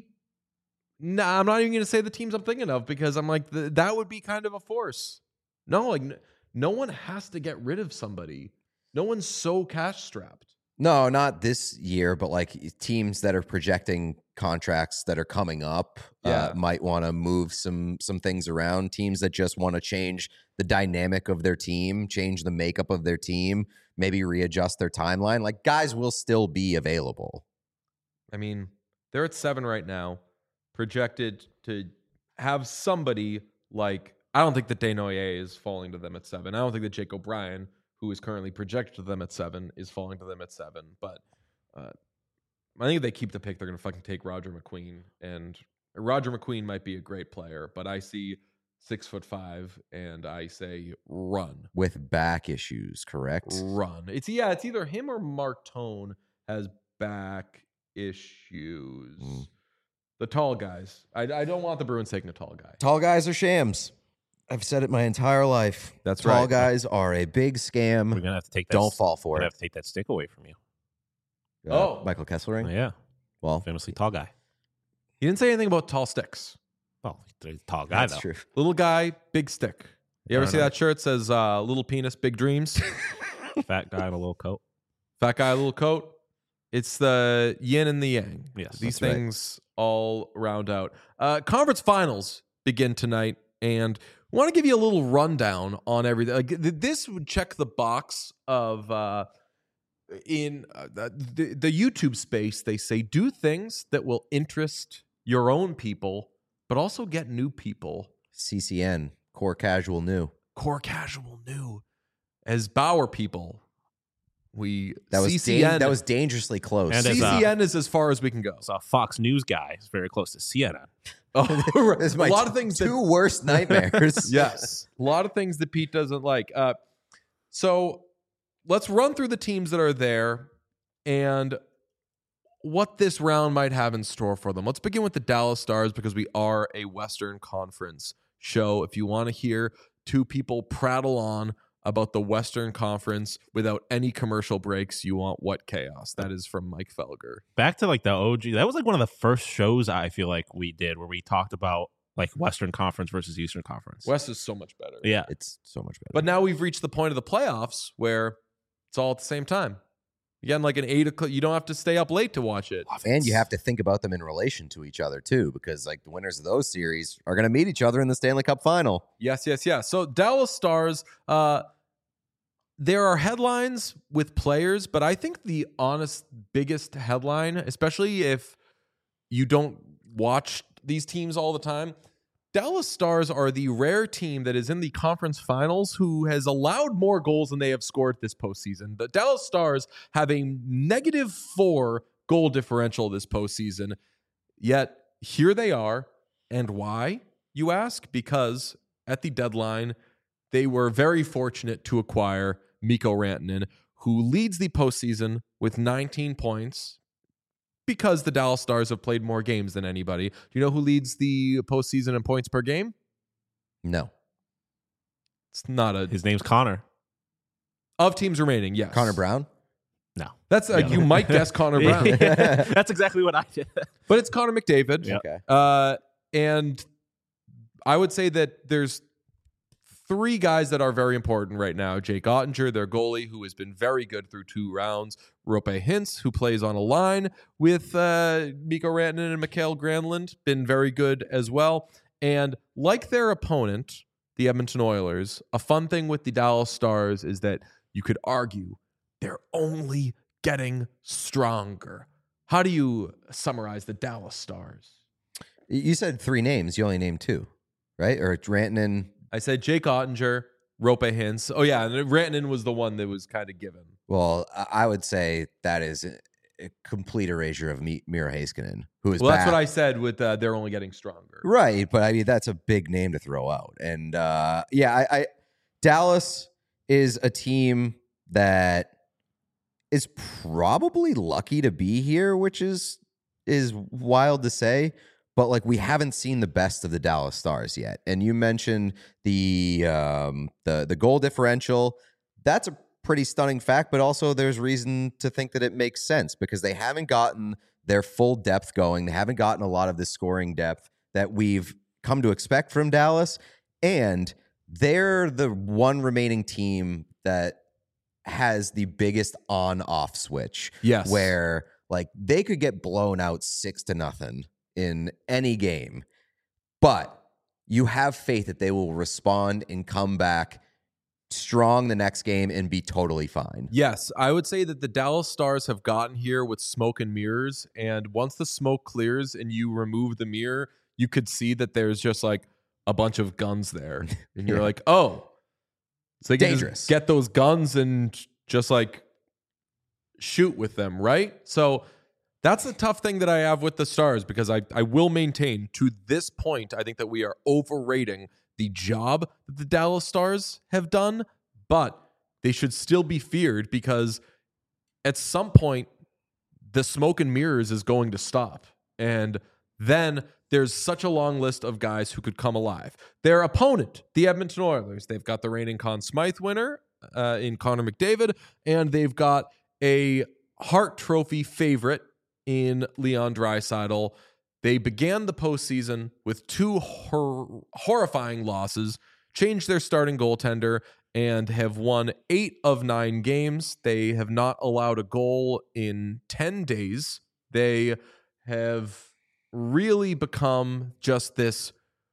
Nah, I'm not even going to say the teams I'm thinking of because I'm like, th- that would be kind of a force. No, like, n- no one has to get rid of somebody. No one's so cash strapped. No, not this year, but like teams that are projecting contracts that are coming up Yeah. uh, might want to move some some things around. Teams that just want to change the dynamic of their team, change the makeup of their team, maybe readjust their timeline. Like guys will still be available. I mean, they're at seven right now, projected to have somebody like, I don't think that Desnoyers is falling to them at seven. I don't think that Jake O'Brien, who is currently projected to them at seven, is falling to them at seven. But uh, I think if they keep the pick, they're going to fucking take Roger McQueen. And Roger McQueen might be a great player, but I see six foot five, and I say run. With back issues, correct? Run. It's yeah, it's either him or Mark Tone has back issues. Mm. The tall guys. I, I don't want the Bruins taking a tall guy. Tall guys are shams. I've said it my entire life. That's Tall right. guys are a big scam. We're gonna have to take that. Don't fall We're for gonna it. have to take that stick away from you. Uh, Oh. Michael Kesselring. Yeah, Well, famously tall guy. He didn't say anything about tall sticks. Well, he's a tall guy that's though. true. Little guy, big stick. You I ever don't see know. that shirt? It says uh, little penis, big dreams. Fat guy in a little coat. Fat guy, little coat. It's the yin and the yang. Yes, These that's right. things all round out. Uh, conference finals begin tonight, and I want to give you a little rundown on everything. Like, th- this would check the box of uh, in uh, the, the YouTube space. They say do things that will interest your own people, but also get new people. C C N, core casual new. Core casual new as Bauer people. We That was C C N. dan- that was dangerously close. And as C C N is as far as we can go. So a Fox News guy is very close to C N N. Oh, This is a my lot t- of things two that worst nightmares. yes, a lot of things that Pete doesn't like. Uh, so let's run through the teams that are there and what this round might have in store for them. Let's begin with the Dallas Stars because we are a Western Conference show. If you want to hear two people prattle on about the Western Conference without any commercial breaks, you want What Chaos. That is from Mike Felger. Back to like the O G. That was like one of the first shows I feel like we did where we talked about like Western Conference versus Eastern Conference. West is so much better. Yeah. It's so much better. But now we've reached the point of the playoffs where it's all at the same time. Again, like an eight o'clock, you don't have to stay up late to watch it. and you have to think about them in relation to each other too, because like the winners of those series are going to meet each other in the Stanley Cup final. Yes, yes, yes. So Dallas Stars, uh, there are headlines with players, but I think the honest biggest headline, especially if you don't watch these teams all the time, Dallas Stars are the rare team that is in the conference finals who has allowed more goals than they have scored this postseason. The Dallas Stars have a negative four goal differential this postseason, yet here they are. And why, you ask? Because at the deadline, they were very fortunate to acquire Mikko Rantanen, who leads the postseason with nineteen points because the Dallas Stars have played more games than anybody. Do you know who leads the postseason in points per game? No, It's not a... His name's Connor. Of teams remaining, yes. Connor Brown. No. That's uh, Yeah. You might guess Connor Brown, That's exactly what I did. but it's Connor McDavid. Yeah. Okay. Uh, and I would say that there's three guys that are very important right now. Jake Ottinger, their goalie, who has been very good through two rounds. Rope Hintz, who plays on a line with uh, Mikko Rantanen and Mikael Granlund, been very good as well. And like their opponent, the Edmonton Oilers, a fun thing with the Dallas Stars is that you could argue they're only getting stronger. how do you summarize the Dallas Stars? You said three names. You only named two, right? Or Rantanen. I said Jake Ottinger, Rope Hintz. Oh yeah, and Rantanen was the one that was kind of given. Well, I I would say that is a, a complete erasure of Mi- Miro Heiskanen, who is Well, that's back. what I said with uh, they're only getting stronger. Right, but I mean that's a big name to throw out, and uh, yeah, I, I Dallas is a team that is probably lucky to be here, which is is wild to say. But like we haven't seen the best of the Dallas Stars yet, and you mentioned the um, the the goal differential. That's a pretty stunning fact, but also there's reason to think that it makes sense because they haven't gotten their full depth going. They haven't gotten a lot of the scoring depth that we've come to expect from Dallas, and they're the one remaining team that has the biggest on-off switch. Yes. Where like they could get blown out six to nothing in any game, but you have faith that they will respond and come back strong the next game and be totally fine. Yes, I would say that the Dallas Stars have gotten here with smoke and mirrors, and once the smoke clears and you remove the mirror, you could see that there's just like a bunch of guns there, and you're Yeah. like, oh, so they can just Dangerous. get those guns and just like shoot with them, right? So that's the tough thing that I have with the Stars because I, I will maintain to this point, I think that we are overrating the job that the Dallas Stars have done, but they should still be feared because at some point, the smoke and mirrors is going to stop. And then there's such a long list of guys who could come alive. Their opponent, the Edmonton Oilers, they've got the reigning Conn Smythe winner uh, in Connor McDavid, and they've got a Hart Trophy favorite in Leon Draisaitl. They began the postseason with two hor- horrifying losses, changed their starting goaltender, and have won eight of nine games. They have not allowed a goal in ten days. They have really become just this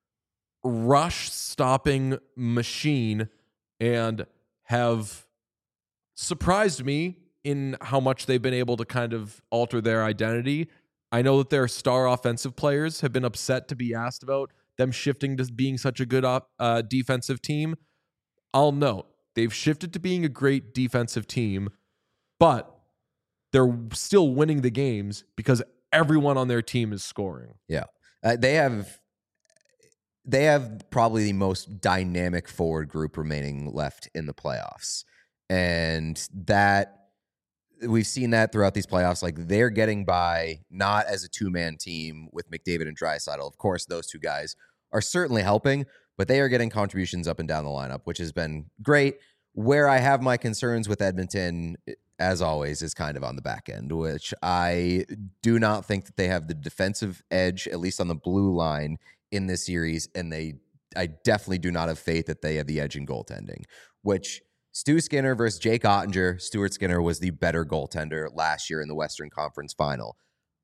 rush-stopping machine and have surprised me in how much they've been able to kind of alter their identity. I know that their star offensive players have been upset to be asked about them shifting to being such a good uh, defensive team. I'll note, they've shifted to being a great defensive team, but they're still winning the games because everyone on their team is scoring. Yeah. Uh, they have they have probably the most dynamic forward group remaining left in the playoffs. And that we've seen that throughout these playoffs. Like they're getting by not as a two-man team with McDavid and Draisaitl. Of course, those two guys are certainly helping, but they are getting contributions up and down the lineup, which has been great. Where I have my concerns with Edmonton, as always, is kind of on the back end, which I do not think that they have the defensive edge, at least on the blue line, in this series. And they, I definitely do not have faith that they have the edge in goaltending, which Stu Skinner versus Jake Ottinger. Stuart Skinner was the better goaltender last year in the Western Conference Final.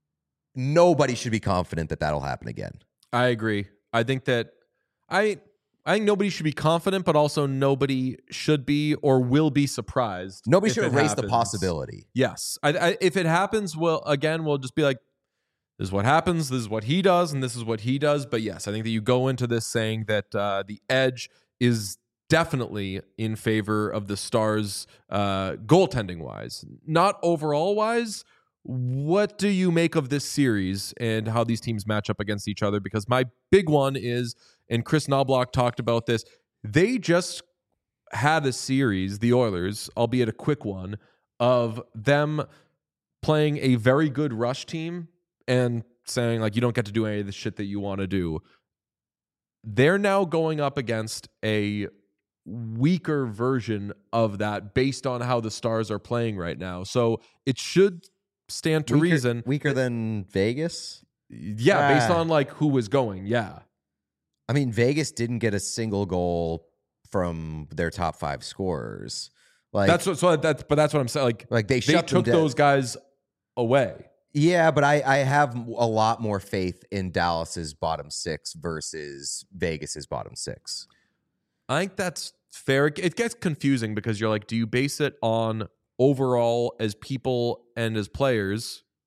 Nobody should be confident that that'll happen again. I agree. I think that I I think nobody should be confident, but also nobody should be or will be surprised. Nobody if should it erase the happens. possibility. Yes. I, I, if it happens, well, again, we'll just be like, this is what happens, this is what he does, and this is what he does. But yes, I think that you go into this saying that uh, the edge is definitely in favor of the Stars uh, goaltending wise. Not overall wise. What do you make of this series and how these teams match up against each other? Because my big one is, and Chris Knobloch talked about this, they just had a series, the Oilers, albeit a quick one, of them playing a very good rush team and saying, like, you don't get to do any of the shit that you want to do. They're now going up against a weaker version of that based on how the Stars are playing right now. So it should stand to Weaker, reason. Weaker than Vegas? Yeah, based Ah. on like who was going. Yeah. I mean, Vegas didn't get a single goal from their top five scorers. Like That's what so that's but that's what I'm saying. Like, like they they shut them took down. those guys away. Yeah, but I, I have a lot more faith in Dallas's bottom six versus Vegas's bottom six. I think that's fair. It gets confusing because you're like, do you base it on overall as people and as players,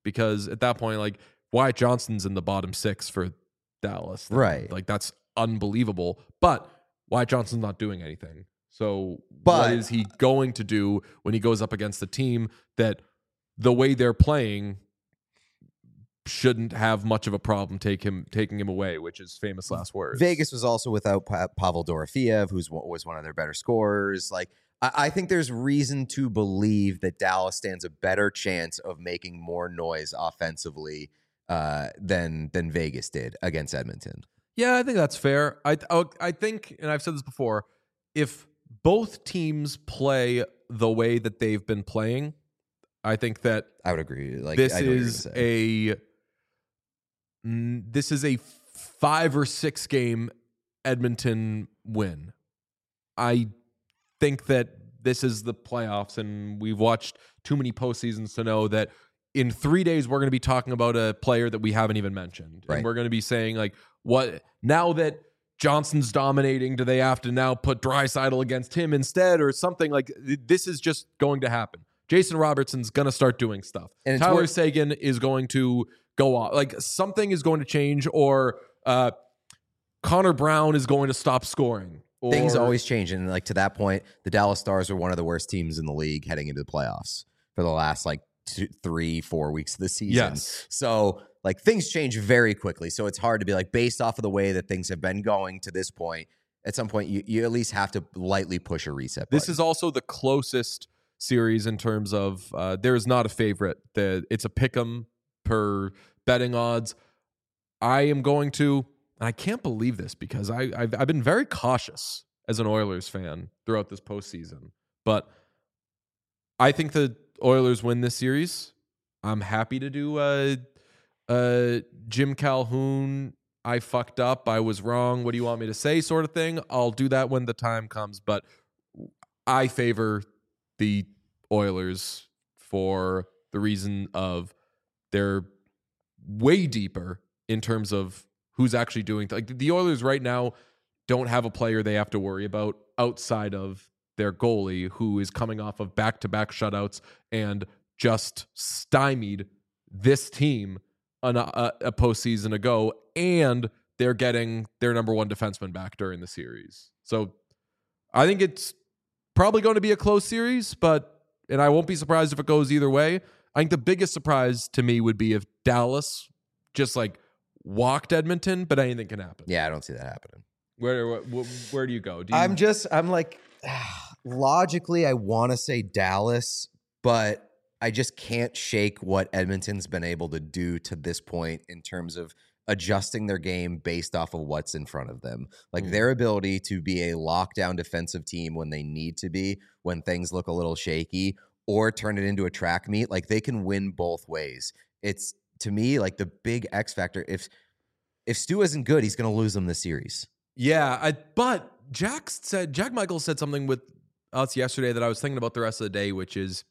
because at that point, like Wyatt Johnston's in the bottom six for Dallas. Right. Like that's unbelievable. But Wyatt Johnston's not doing anything. So But- what is he going to do when he goes up against a team that the way they're playing shouldn't have much of a problem take him taking him away, which is famous last words. Vegas was also without pa- Pavel Dorofeev, who's was one of their better scorers. Like, I, I think there's reason to believe that Dallas stands a better chance of making more noise offensively uh, than than Vegas did against Edmonton. Yeah, I think that's fair. I I think, and I've said this before, if both teams play the way that they've been playing, I think that I would agree. Like this I know what you're is gonna say. a mm, this is a five or six game Edmonton win. I think that this is the playoffs, and we've watched too many postseasons to know that in three days we're going to be talking about a player that we haven't even mentioned, Right. and we're going to be saying like, what now that Johnson's dominating, do they have to now put Draisaitl against him instead, or something like this is just going to happen. Jason Robertson's going to start doing stuff. And it's Tyler what- Seguin is going to go off. Like something is going to change, or uh, Connor Brown is going to stop scoring. Or, Things always change, and like to that point, the Dallas Stars are one of the worst teams in the league heading into the playoffs for the last like two, three, four weeks of the season. Yes. So like things change very quickly. So it's hard to be like based off of the way that things have been going to this point. At some point, you you at least have to lightly push a reset button. This is also the closest series in terms of uh, there is not a favorite. The, it's a pick 'em per betting odds. I am going to, and I can't believe this because I, I've, I've been very cautious as an Oilers fan throughout this postseason, but I think the Oilers win this series. I'm happy to do a, a Jim Calhoun, I fucked up, I was wrong, what do you want me to say sort of thing. I'll do that when the time comes, but I favor the Oilers for the reason of they're way deeper in terms of who's actually doing th- like the Oilers right now don't have a player they have to worry about outside of their goalie, who is coming off of back-to-back shutouts and just stymied this team an, a, a postseason ago, and they're getting their number one defenseman back during the series. So I think it's probably going to be a close series, but and I won't be surprised if it goes either way. I think the biggest surprise to me would be if Dallas just like walked Edmonton, but anything can happen. yeah, I don't see that happening. Where where, where do you go? Do you, I'm just, I'm like, logically, I want to say Dallas, but I just can't shake what Edmonton's been able to do to this point in terms of adjusting their game based off of what's in front of them. Like Mm. their ability to be a lockdown defensive team when they need to be, when things look a little shaky, or turn it into a track meet. Like they can win both ways. It's, to me, like the big X factor. If if Stu isn't good, he's going to lose them this series. Yeah, I, but Jack said Jack Michaels said something with us yesterday that I was thinking about the rest of the day, which is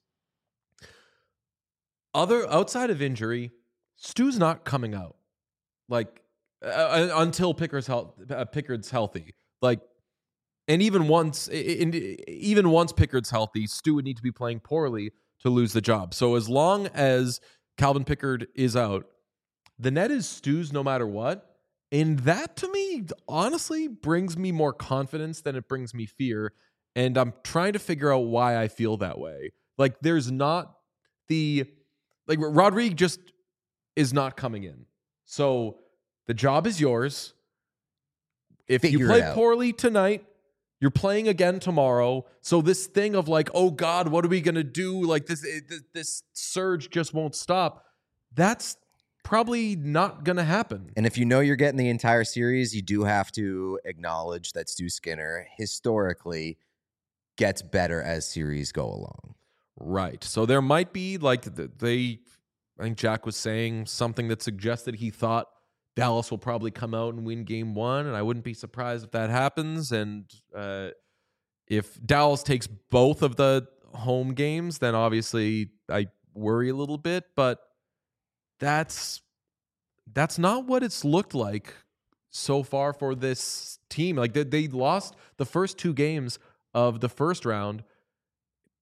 other outside of injury, Stu's not coming out like uh, until Pickard's health, uh, Pickard's healthy. Like, and even once, in, even once Pickard's healthy, Stu would need to be playing poorly to lose the job. So as long as Calvin Pickard is out, the net is Stu's no matter what. And that to me, honestly, brings me more confidence than it brings me fear. And I'm trying to figure out why I feel that way. Like there's not the, like Rodrigue just is not coming in. So the job is yours. If Figure you it play out. poorly tonight, you're playing again tomorrow. So this thing of like, oh God, what are we going to do? Like this, this, this surge just won't stop. That's probably not going to happen. And if you know you're getting the entire series, you do have to acknowledge that Stu Skinner historically gets better as series go along. Right. So there might be like th- they, I think Jack was saying something that suggested he thought Dallas will probably come out and win game one. And I wouldn't be surprised if that happens. And uh, if Dallas takes both of the home games, then obviously I worry a little bit, but that's, that's not what it's looked like so far for this team. Like they, they lost the first two games of the first round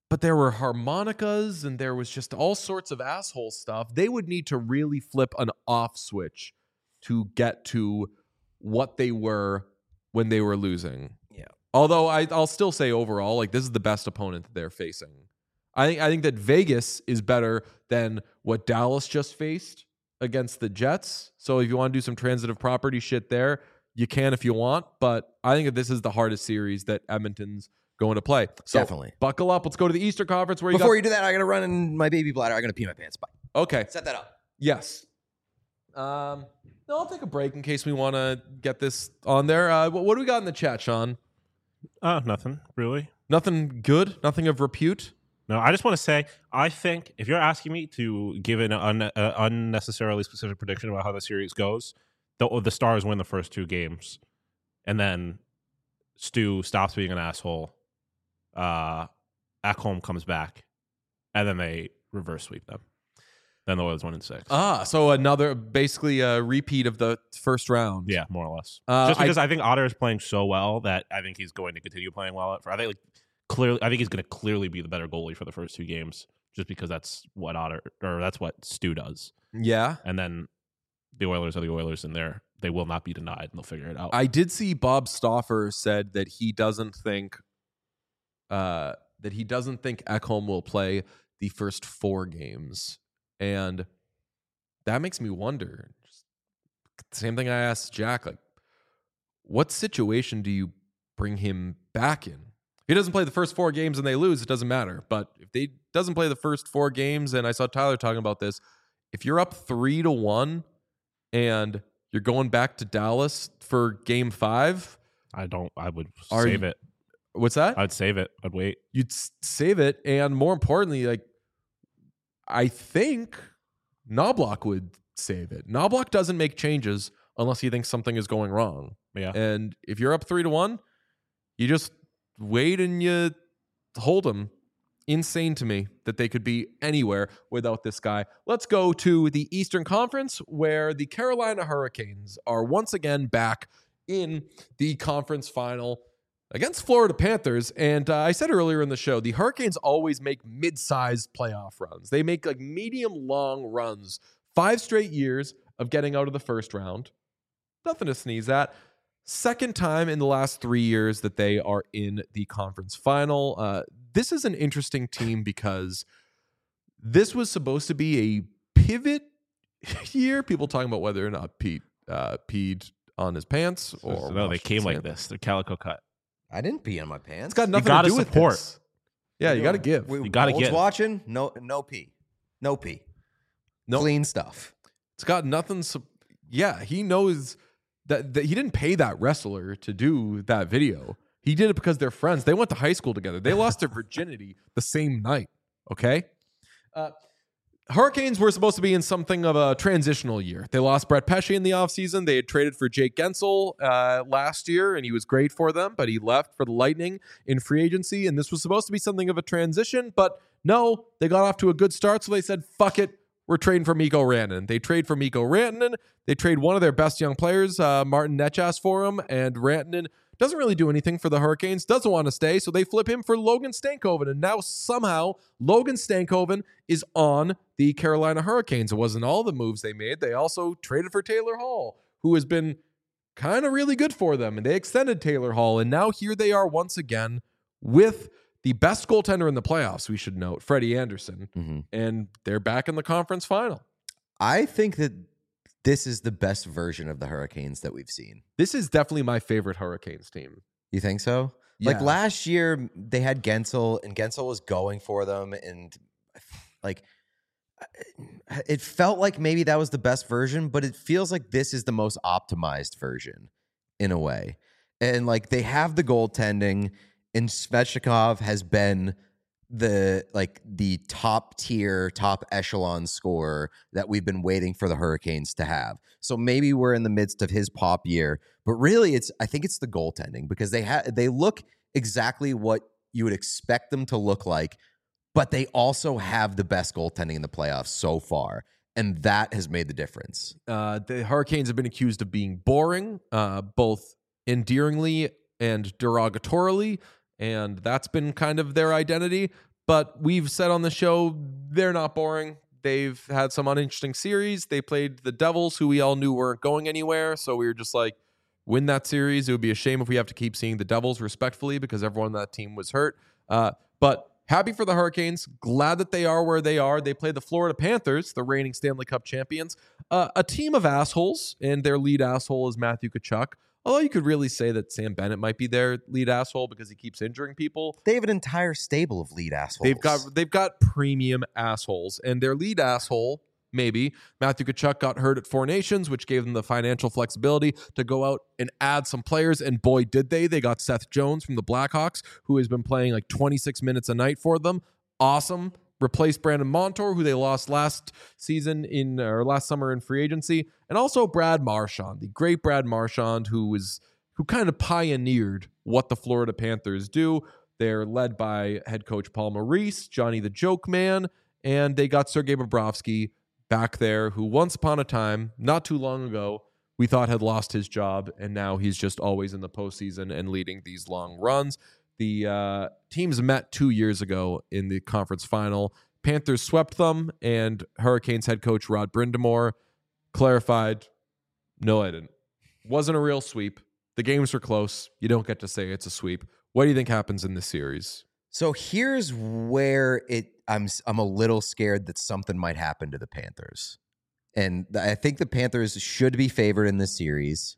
but there were harmonicas and there was just all sorts of asshole stuff. They would need to really flip an off switch to get to what they were when they were losing. Yeah. Although I, I'll still say overall, like this is the best opponent that they're facing. I think I think that Vegas is better than what Dallas just faced against the Jets. So if you want to do some transitive property shit there, you can if you want. But I think that this is the hardest series that Edmonton's going to play. So Definitely. buckle up. Let's go to the Eastern Conference where you Before got... you do that, I got to run in my baby bladder. I got to pee my pants. Bye. Okay. Set that up. Yes. Um, no, I'll take a break in case we want to get this on there. Uh, what, what do we got in the chat, Sean? Uh, nothing really. Nothing good? Nothing of repute? No, I just want to say, I think if you're asking me to give an un- uh, unnecessarily specific prediction about how the series goes, the, the Stars win the first two games, and then Stu stops being an asshole. Uh, Ekholm comes back, and then they reverse sweep them. Then the Oilers win in six. Ah, so another, basically a repeat of the first round. Yeah, more or less. Uh, Just because I, I, think Otter is playing so well that I think he's going to continue playing well. For I think like clearly, I think he's going to clearly be the better goalie for the first two games, just because that's what Otter or that's what Stu does. yeah. And then the Oilers are the Oilers, and they're they will not be denied, and they'll figure it out. I did see Bob Stauffer said that he doesn't think uh, that he doesn't think Ekholm will play the first four games. And that makes me wonder. Just, same thing I asked Jack, like, what situation do you bring him back in? If he doesn't play the first four games and they lose, it doesn't matter. But if they doesn't play the first four games, and I saw Tyler talking about this, if you're up three to one and you're going back to Dallas for game five, I don't. I would Are save you- it. what's that? I'd save it. I'd wait. You'd s- save it. And more importantly, like, I think Knobloch would save it. Knobloch doesn't make changes unless he thinks something is going wrong. Yeah. And if you're up three to one, you just wait and you hold them. Insane to me that they could be anywhere without this guy. Let's go to the Eastern Conference, where the Carolina Hurricanes are once again back in the conference final against Florida Panthers. And uh, I said earlier in the show, the Hurricanes always make mid-sized playoff runs. They make like medium-long runs. Five straight years of getting out of the first round. Nothing to sneeze at. Second time in the last three years that they are in the conference final. Uh, this is an interesting team because this was supposed to be a pivot year. People talking about whether or not Pete uh, peed on his pants or no, they washed came his like hands. this. They're calico cut. I didn't pee on my pants. It's got nothing gotta to do support. with this. Yeah, you got to give. We, You gotta Wolves give. watching. No, no pee. No pee. No. Clean stuff. It's got nothing. Su- yeah, he knows that, that he didn't pay that wrestler to do that video. He did it because they're friends. They went to high school together. They lost their virginity the same night. Okay. Uh, Hurricanes were supposed to be in something of a transitional year. They lost Brett Pesce in the offseason. They had traded for Jake Gensel uh, last year, and he was great for them, but he left for the Lightning in free agency, and this was supposed to be something of a transition, but no, they got off to a good start, so they said, fuck it, we're trading for Mikko Rantanen. They trade for Mikko Rantanen. They trade one of their best young players, uh, Martin Necas, for him, and Rantanen doesn't really do anything for the Hurricanes, doesn't want to stay, so they flip him for Logan Stankoven, and now somehow Logan Stankoven is on the Carolina Hurricanes. It wasn't all the moves they made. They also traded for Taylor Hall, who has been kind of really good for them, and they extended Taylor Hall, and now here they are once again with the best goaltender in the playoffs, we should note, Freddie Anderson, Mm-hmm. and they're back in the conference final. I think that this is the best version of the Hurricanes that we've seen. This is definitely my favorite Hurricanes team. You think so? Yeah. Like last year, they had Gensel, and Gensel was going for them, and like it felt like maybe that was the best version, but it feels like this is the most optimized version in a way. And like they have the goaltending, and Svechnikov has been the like the top tier, top echelon scorer that we've been waiting for the Hurricanes to have. So maybe we're in the midst of his pop year, but really it's I think it's the goaltending, because they have they look exactly what you would expect them to look like, but they also have the best goaltending in the playoffs so far, and that has made the difference. Uh, the Hurricanes have been accused of being boring, uh, both endearingly and derogatorily, and that's been kind of their identity. but we've said on the show they're not boring. They've had some uninteresting series. They played the Devils, who we all knew weren't going anywhere. So we were just like, win that series. It would be a shame if we have to keep seeing the Devils respectfully because everyone on that team was hurt. Uh, but happy for the Hurricanes. Glad that they are where they are. They play the Florida Panthers, the reigning Stanley Cup champions. Uh, a team of assholes, and their lead asshole is Matthew Tkachuk. Although you could really say that Sam Bennett might be their lead asshole because he keeps injuring people. They have an entire stable of lead assholes. They've got they've got premium assholes, and their lead asshole, maybe Matthew Tkachuk, got hurt at Four Nations, which gave them the financial flexibility to go out and add some players. And boy, did they! They got Seth Jones from the Blackhawks, who has been playing like twenty-six minutes a night for them. Awesome. Replaced Brandon Montour, who they lost last season in or last summer in free agency, and also Brad Marchand, the great Brad Marchand, who was who kind of pioneered what the Florida Panthers do. They're led by head coach Paul Maurice, Johnny the Joke Man, and they got Sergei Bobrovsky back there, who once upon a time, not too long ago, we thought had lost his job, and now he's just always in the postseason and leading these long runs. The uh, teams met two years ago in the conference final. Panthers swept them, and Hurricanes head coach Rod Brind'Amour clarified, no, I didn't. Wasn't a real sweep. The games were close. You don't get to say it's a sweep. What do you think happens in this series? So here's where it I'm I'm a little scared that something might happen to the Panthers. And I think the Panthers should be favored in this series.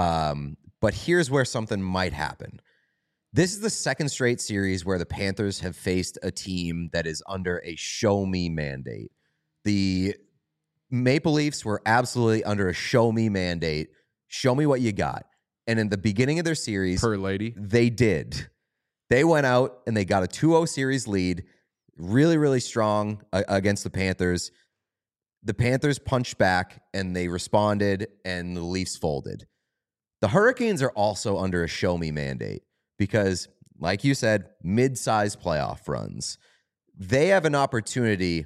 Um, but here's where something might happen. This is the second straight series where the Panthers have faced a team that is under a show me mandate. The Maple Leafs were absolutely under a show me mandate. Show me what you got. And in the beginning of their series, Per lady. they did. They went out and they got a two oh series lead, really, really strong uh, against the Panthers. The Panthers punched back and they responded, and the Leafs folded. The Hurricanes are also under a show me mandate because, like you said, mid-sized playoff runs. They have an opportunity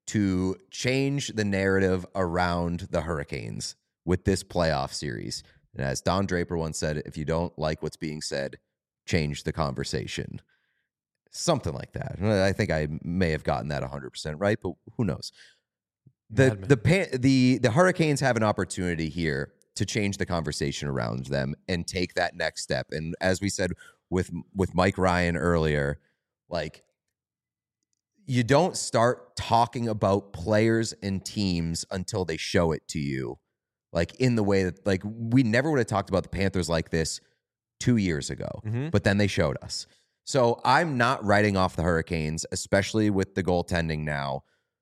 to change the narrative around the Hurricanes with this playoff series. And as Don Draper once said, if you don't like what's being said, change the conversation. Something like that. I think I may have gotten that one hundred percent right, but who knows? The Madman. the pan, the the Hurricanes have an opportunity here to change the conversation around them and take that next step. And as we said with with Mike Ryan earlier, like, you don't start talking about players and teams until they show it to you. Like, in the way that, like, we never would have talked about the Panthers like this two years ago, Mhm. but then they showed us. So I'm not writing off the Hurricanes, especially with the goaltending now.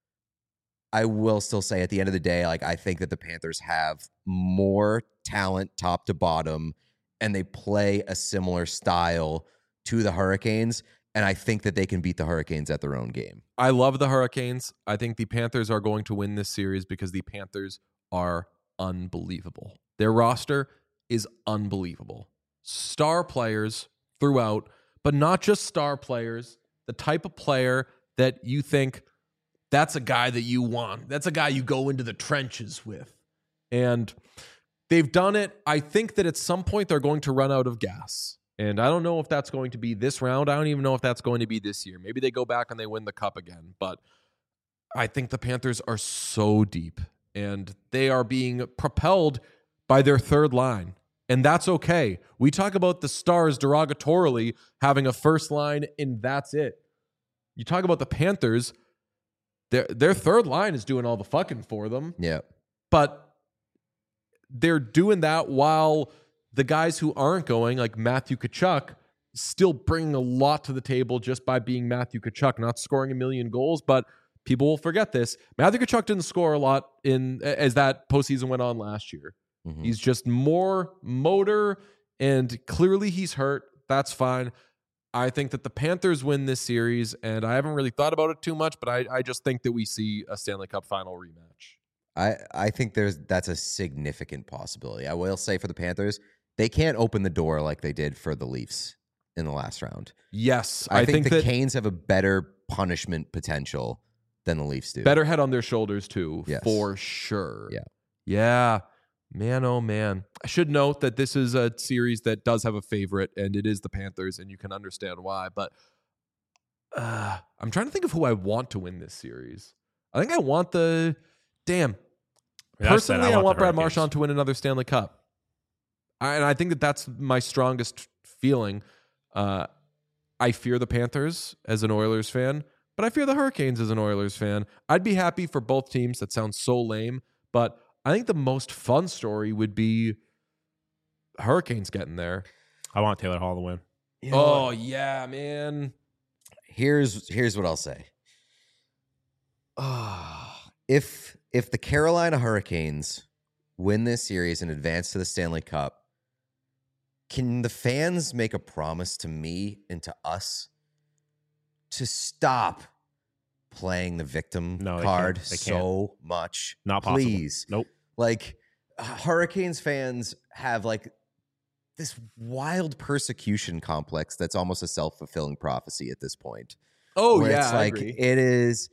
I will still say at the end of the day, like, I think that the Panthers have more talent top to bottom, and they play a similar style to the Hurricanes. And I think that they can beat the Hurricanes at their own game. I love the Hurricanes. I think the Panthers are going to win this series because the Panthers are unbelievable. Their roster is unbelievable. Star players throughout, but not just star players, the type of player that you think that's a guy that you want. That's a guy you go into the trenches with. And they've done it. I think that at some point they're going to run out of gas. And I don't know if that's going to be this round. I don't even know if that's going to be this year. Maybe they go back and they win the cup again. But I think the Panthers are so deep, and they are being propelled by their third line. And that's okay. We talk about the Stars derogatorily having a first line, and that's it. You talk about the Panthers, their their third line is doing all the fucking for them. Yeah. But they're doing that while the guys who aren't going, like Matthew Tkachuk, still bringing a lot to the table just by being Matthew Tkachuk, not scoring a million goals. But people will forget this. Matthew Tkachuk didn't score a lot in as that postseason went on last year. Mm-hmm. He's just more motor, and clearly he's hurt. That's fine. I think that the Panthers win this series, and I haven't really thought about it too much, but I, I just think that we see a Stanley Cup final rematch. I, I think there's that's a significant possibility. I will say for the Panthers, they can't open the door like they did for the Leafs in the last round. Yes, I, I, think, think, the that Canes have a better punishment potential than the Leafs do. better head on their shoulders too, Yes. for sure. Yeah. Yeah. Man, oh man. I should note that this is a series that does have a favorite, and it is the Panthers, and you can understand why. But uh, I'm trying to think of who I want to win this series. I think I want the damn. That said, Personally, I want, the Brad Hurricanes. Marchand to win another Stanley Cup. I, and I think that that's my strongest feeling. Uh, I fear the Panthers as an Oilers fan, but I fear the Hurricanes as an Oilers fan. I'd be happy for both teams. That sounds so lame, but I think the most fun story would be Hurricanes getting there. I want Taylor Hall to win. You know Oh, what? yeah, man. Here's here's what I'll say. Ah, if if the Carolina Hurricanes win this series and advance to the Stanley Cup, can the fans make a promise to me and to us to stop playing the victim No, they card can't. They so much? Not possible. Please. Nope. Like Hurricanes fans have like this wild persecution complex that's almost a self-fulfilling prophecy at this point. Oh, where yeah, it's I like agree. it is.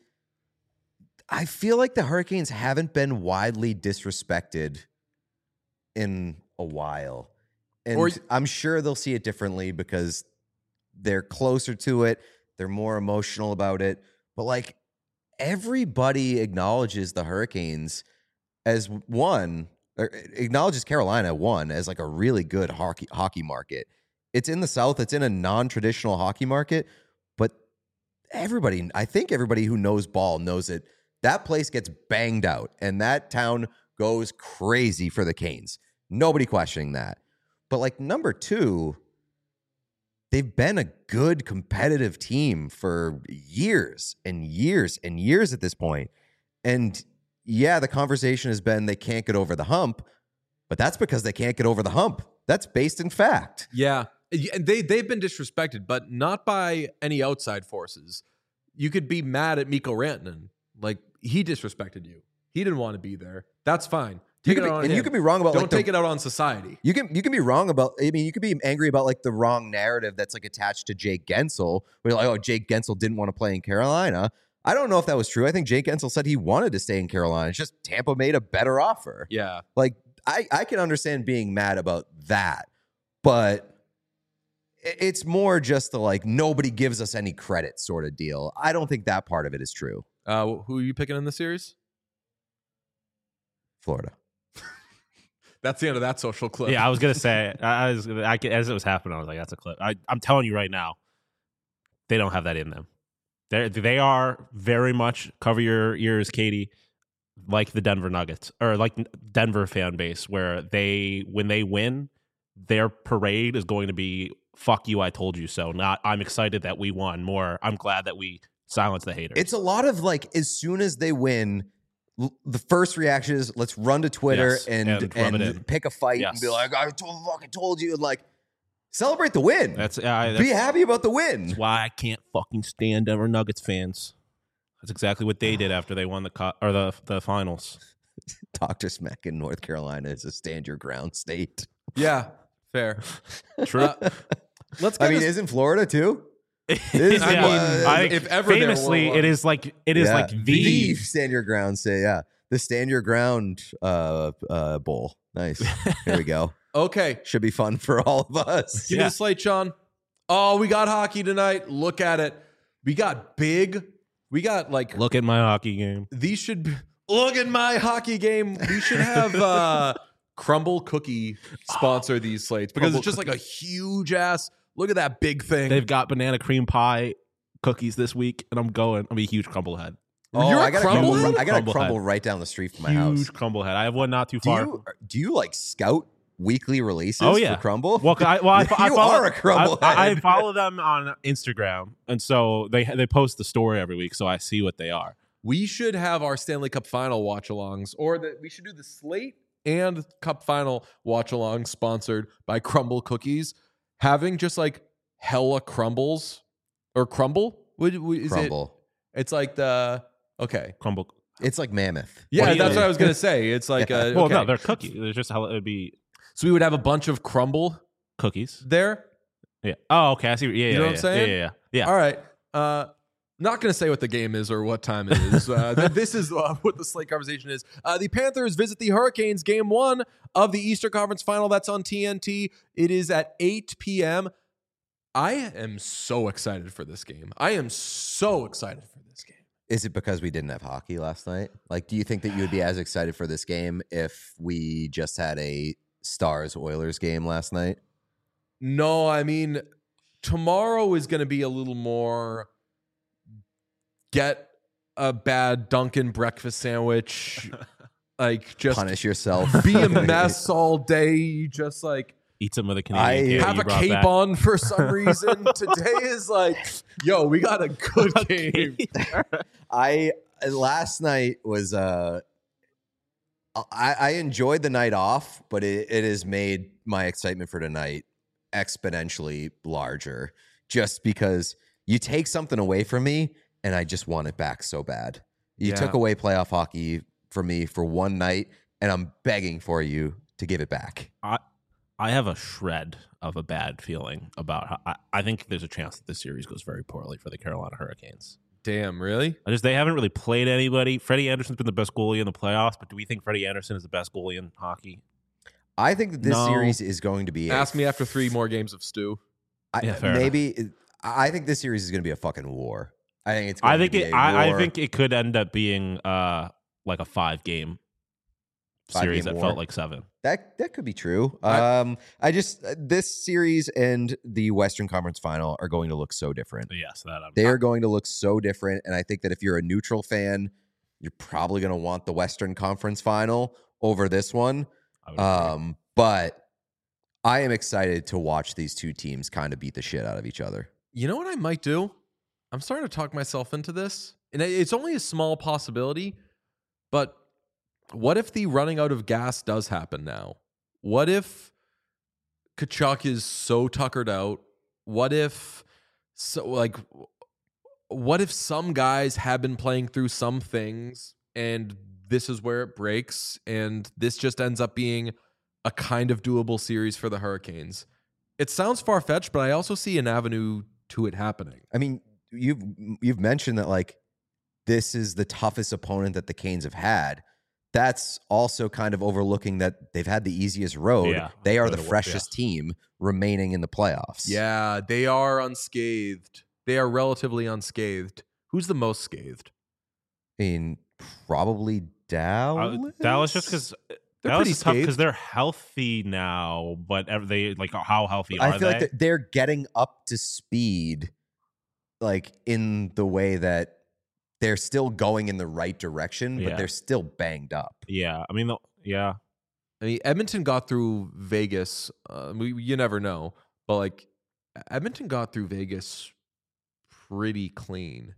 I feel like the Hurricanes haven't been widely disrespected in a while, and Or- I'm sure they'll see it differently because they're closer to it. They're more emotional about it, but like everybody acknowledges the Hurricanes as one, or acknowledges Carolina one as like a really good hockey hockey market. It's in the South. It's in a non-traditional hockey market, but everybody, I think everybody who knows ball knows that that place gets banged out and that town goes crazy for the Canes. Nobody questioning that. But like number two, they've been a good competitive team for years and years and years at this point. And yeah, the conversation has been they can't get over the hump, but that's because they can't get over the hump. That's based in fact. Yeah. Yeah, They, they've been disrespected, but not by any outside forces. You could be mad at Mikko Rantanen. Like, he disrespected you. He didn't want to be there. That's fine. You Take could it be, out on and him. you could be wrong about Don't like the, take it out on society. You can you can be wrong about. I mean, you could be angry about like the wrong narrative that's like attached to Jake Gensel. Where you're like, oh, Jake Gensel didn't want to play in Carolina. I don't know if that was true. I think Jake Gensel said he wanted to stay in Carolina. It's just Tampa made a better offer. Yeah. Like I I can understand being mad about that, but i- it's more just the like nobody gives us any credit sort of deal. I don't think that part of it is true. Uh, who are you picking in the series? Florida. That's the end of that social clip. Yeah, I was gonna say, I I was I, as it was happening, I was like, "That's a clip." I, I'm telling you right now, they don't have that in them. They they are very much cover your ears, Katie, like the Denver Nuggets or like Denver fan base, where they when they win, their parade is going to be "fuck you, I told you so." Not I'm excited that we won. More, I'm glad that we silenced the haters. It's a lot of like as soon as they win, l- the first reaction is let's run to Twitter Yes, and and rub and, it in. pick a fight Yes. and be like, I told, fucking told you, and like celebrate the win. that's, uh, that's be happy about the win. That's why I can't fucking stand Denver Nuggets fans. That's exactly what they did after they won the co- or the the finals. Doctor Smack in North Carolina is a stand your ground state. Yeah. Fair. True. Uh, let's get I mean, this- isn't Florida too? I Is mean, it- I, if ever there famously, were it one. is like it is Yeah. like the, stand your ground say yeah the stand your ground uh uh bowl. Nice. Here we go. Okay. Should be fun for all of us. Give Yeah. me the slate, Sean. Oh, we got hockey tonight. Look at it. We got big. We got like look at my hockey game. these should be, look at my hockey game. We should have uh Crumble Cookie sponsor these slates because Crumble it's just like a huge ass. Look at that big thing. They've got banana cream pie cookies this week, and I'm going. I'm a huge crumble head. Oh, You're a I got a crumble crumble. head? I got a Crumble crumble head. right down the street from my Huge house. crumble head. I have one not too Do far. you do you like scout weekly releases Oh, yeah. for Crumble? Well, I, well, I, I You follow, are a crumble I, I head. follow them on Instagram, and so they they post the story every week, so I see what they are. we should have our Stanley Cup final watch alongs, or that we should do the slate and Cup final watch along sponsored by Crumble Cookies. Having just like hella crumbles or crumble. Would, would- is Crumble. It, it's like the okay. Crumble. It's like Mammoth. Yeah, Well, that's yeah. what I was gonna say. It's like Yeah. uh, Well, okay. no, they're cookies. It's just how it would be So we would have a bunch of crumble cookies. there. Yeah. Oh, okay. I see. Yeah, yeah, know what yeah, I'm saying? Yeah, yeah, yeah. yeah. All right. Uh, not going to say what the game is or what time it is. Uh, th- this is uh, what the slate conversation is. Uh, the Panthers visit the Hurricanes, game one of the Eastern Conference Final. That's on T N T. It is at eight p.m. I am so excited for this game. I am so excited for this game. Is it because we didn't have hockey last night? Like, do you think that you would be as excited for this game if we just had a Stars Oilers game last night? No, I mean, tomorrow is going to be a little more get a bad Dunkin' breakfast sandwich, like just Punish yourself. be a mess all day, just like Eat some of the Canadian I candy have you a brought cape back. on for some reason. Today is like, yo, we got a good game. I last night was uh I, I enjoyed the night off, but it, it has made my excitement for tonight exponentially larger just because you take something away from me and I just want it back so bad. You Yeah. took away playoff hockey from me for one night and I'm begging for you to give it back. I I have a shred of a bad feeling about how I, I think there's a chance that this series goes very poorly for the Carolina Hurricanes. Damn, really? I just they haven't really played anybody. Freddie Anderson's been the best goalie in the playoffs, but do we think Freddie Anderson is the best goalie in hockey? I think that this No. series is going to be a Ask me after three more games of stew. I, Yeah, fair maybe I think this series is going to be a fucking war. I think it's. Going I think to be it. a I, I war. think it could end up being uh like a five game Five series game that war. felt like seven. that that could be true. I- um, I just this series and the Western Conference Final are going to look so different. But yes, that I'm, They are going to look so different, and I think that if you're a neutral fan, you're probably going to want the Western Conference Final over this one. I would agree. Um, but I am excited to watch these two teams kind of beat the shit out of each other. You know what I might do? I'm starting to talk myself into this. And it's only a small possibility, but what if the running out of gas does happen now? What if Kachuk is so tuckered out? What if so like what if some guys have been playing through some things and this is where it breaks and this just ends up being a kind of doable series for the Hurricanes? It sounds far-fetched, but I also see an avenue to it happening. I mean, you've you've mentioned that like this is the toughest opponent that the Canes have had. That's also kind of overlooking that they've had the easiest road. Yeah, they are road the to work, freshest team remaining in the playoffs. Yeah, they are unscathed. They are relatively unscathed. Who's the most scathed? I mean, probably Dallas. Uh, Dallas just because They're Dallas pretty is tough scathed. because they're healthy now, but ev- they like how healthy are I feel they? like they're getting up to speed, like in the way that they're still going in the right direction, but Yeah. they're still banged up. yeah, I mean, the, yeah, I mean, Edmonton got through Vegas. Uh, we, you never know, but like Edmonton got through Vegas pretty clean.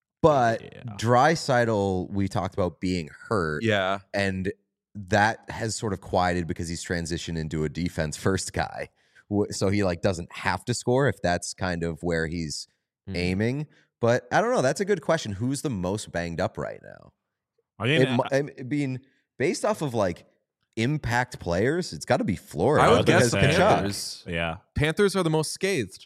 But Yeah. Draisaitl, we talked about being hurt, Yeah, and that has sort of quieted because he's transitioned into a defense first guy. Wh- So he like doesn't have to score if that's kind of where he's Hmm. aiming. But I don't know. That's a good question. Who's the most banged up right now? I mean, It, mu- I mean, based off of like impact players, it's got to be Florida. I would was gonna guess the say, Kachuk. Panthers. yeah, Panthers are the most scathed.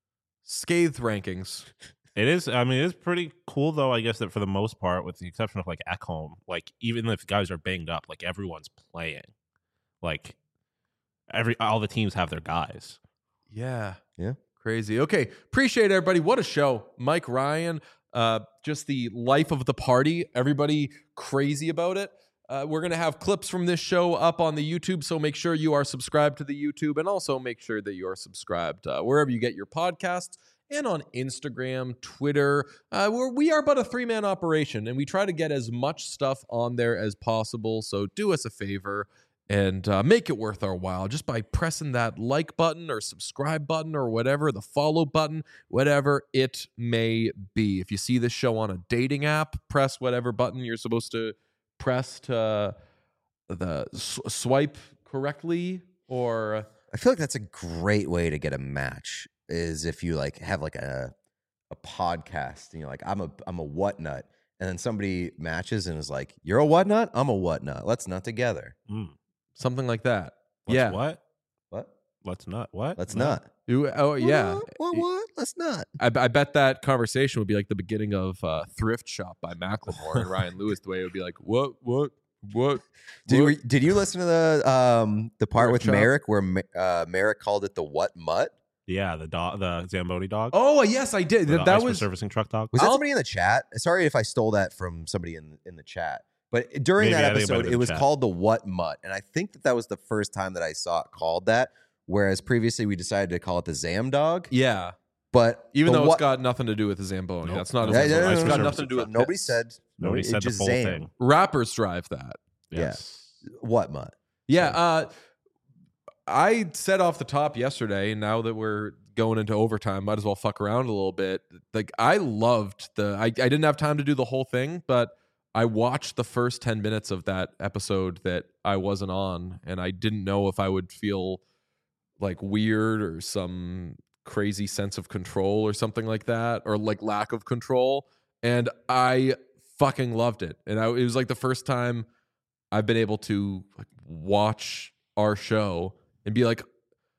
Scathed rankings. it is. I mean, it is pretty cool though. I guess that for the most part, with the exception of like Ekholm, like even if guys are banged up, like everyone's playing. Like every all the teams have their guys. Yeah. Yeah. Crazy. Okay. Appreciate everybody. What a show. Mike Ryan, uh, just the life of the party. Everybody crazy about it. Uh, we're going to have clips from this show up on the YouTube, so make sure you are subscribed to the YouTube and also make sure that you are subscribed uh, wherever you get your podcasts and on Instagram, Twitter. Uh, we're, we are but a three-man operation, and we try to get as much stuff on there as possible, so do us a favor and uh, make it worth our while just by pressing that like button or subscribe button or whatever, the follow button, whatever it may be. If you see this show on a dating app, press whatever button you're supposed to press to uh, the s- swipe correctly, or I feel like that's a great way to get a match. Is if you like have like a a podcast and you're like, I'm a I'm a what nut, and then somebody matches and is like, you're a what nut, I'm a what nut. Let's nut together. Mm. something like that. Let's yeah. what? What? Let's not what? Let's No. nut. You- oh, yeah. What? What? what? Let's nut. I, I bet that conversation would be like the beginning of uh, Thrift Shop by Macklemore and Ryan Lewis. The way it would be like, what, what, what? Did what? we, did you listen to the um the part Riff with Shop? Merrick where Ma- uh, Merrick called it the what mutt? Yeah, the dog, the Zamboni dog. Oh yes, I did. the That, that ice was servicing truck dog. Was that I'll- somebody in the chat? Sorry if I stole that from somebody in in the chat. But during Maybe, that I think it might have episode, been it was chat. called the What Mutt, and I think that that was the first time that I saw it called that. Whereas previously we decided to call it the Zam Dog. yeah. But Even the though what, it's got nothing to do with the Zamboni. Nope. That's not a Yeah, Zamboni. yeah, yeah, It's yeah, got yeah. nothing to do with nobody piss. said Nobody it said the just full Zam. thing. Rappers drive that. Yes. What Mutt? Yeah, uh, I said off the top yesterday, and now that we're going into overtime, might as well fuck around a little bit. Like, I loved the. I, I didn't have time to do the whole thing, but I watched the first ten minutes of that episode that I wasn't on, and I didn't know if I would feel like weird or some crazy sense of control or something like that, or like lack of control. And I fucking loved it. And I, it was like the first time I've been able to like watch our show and be like,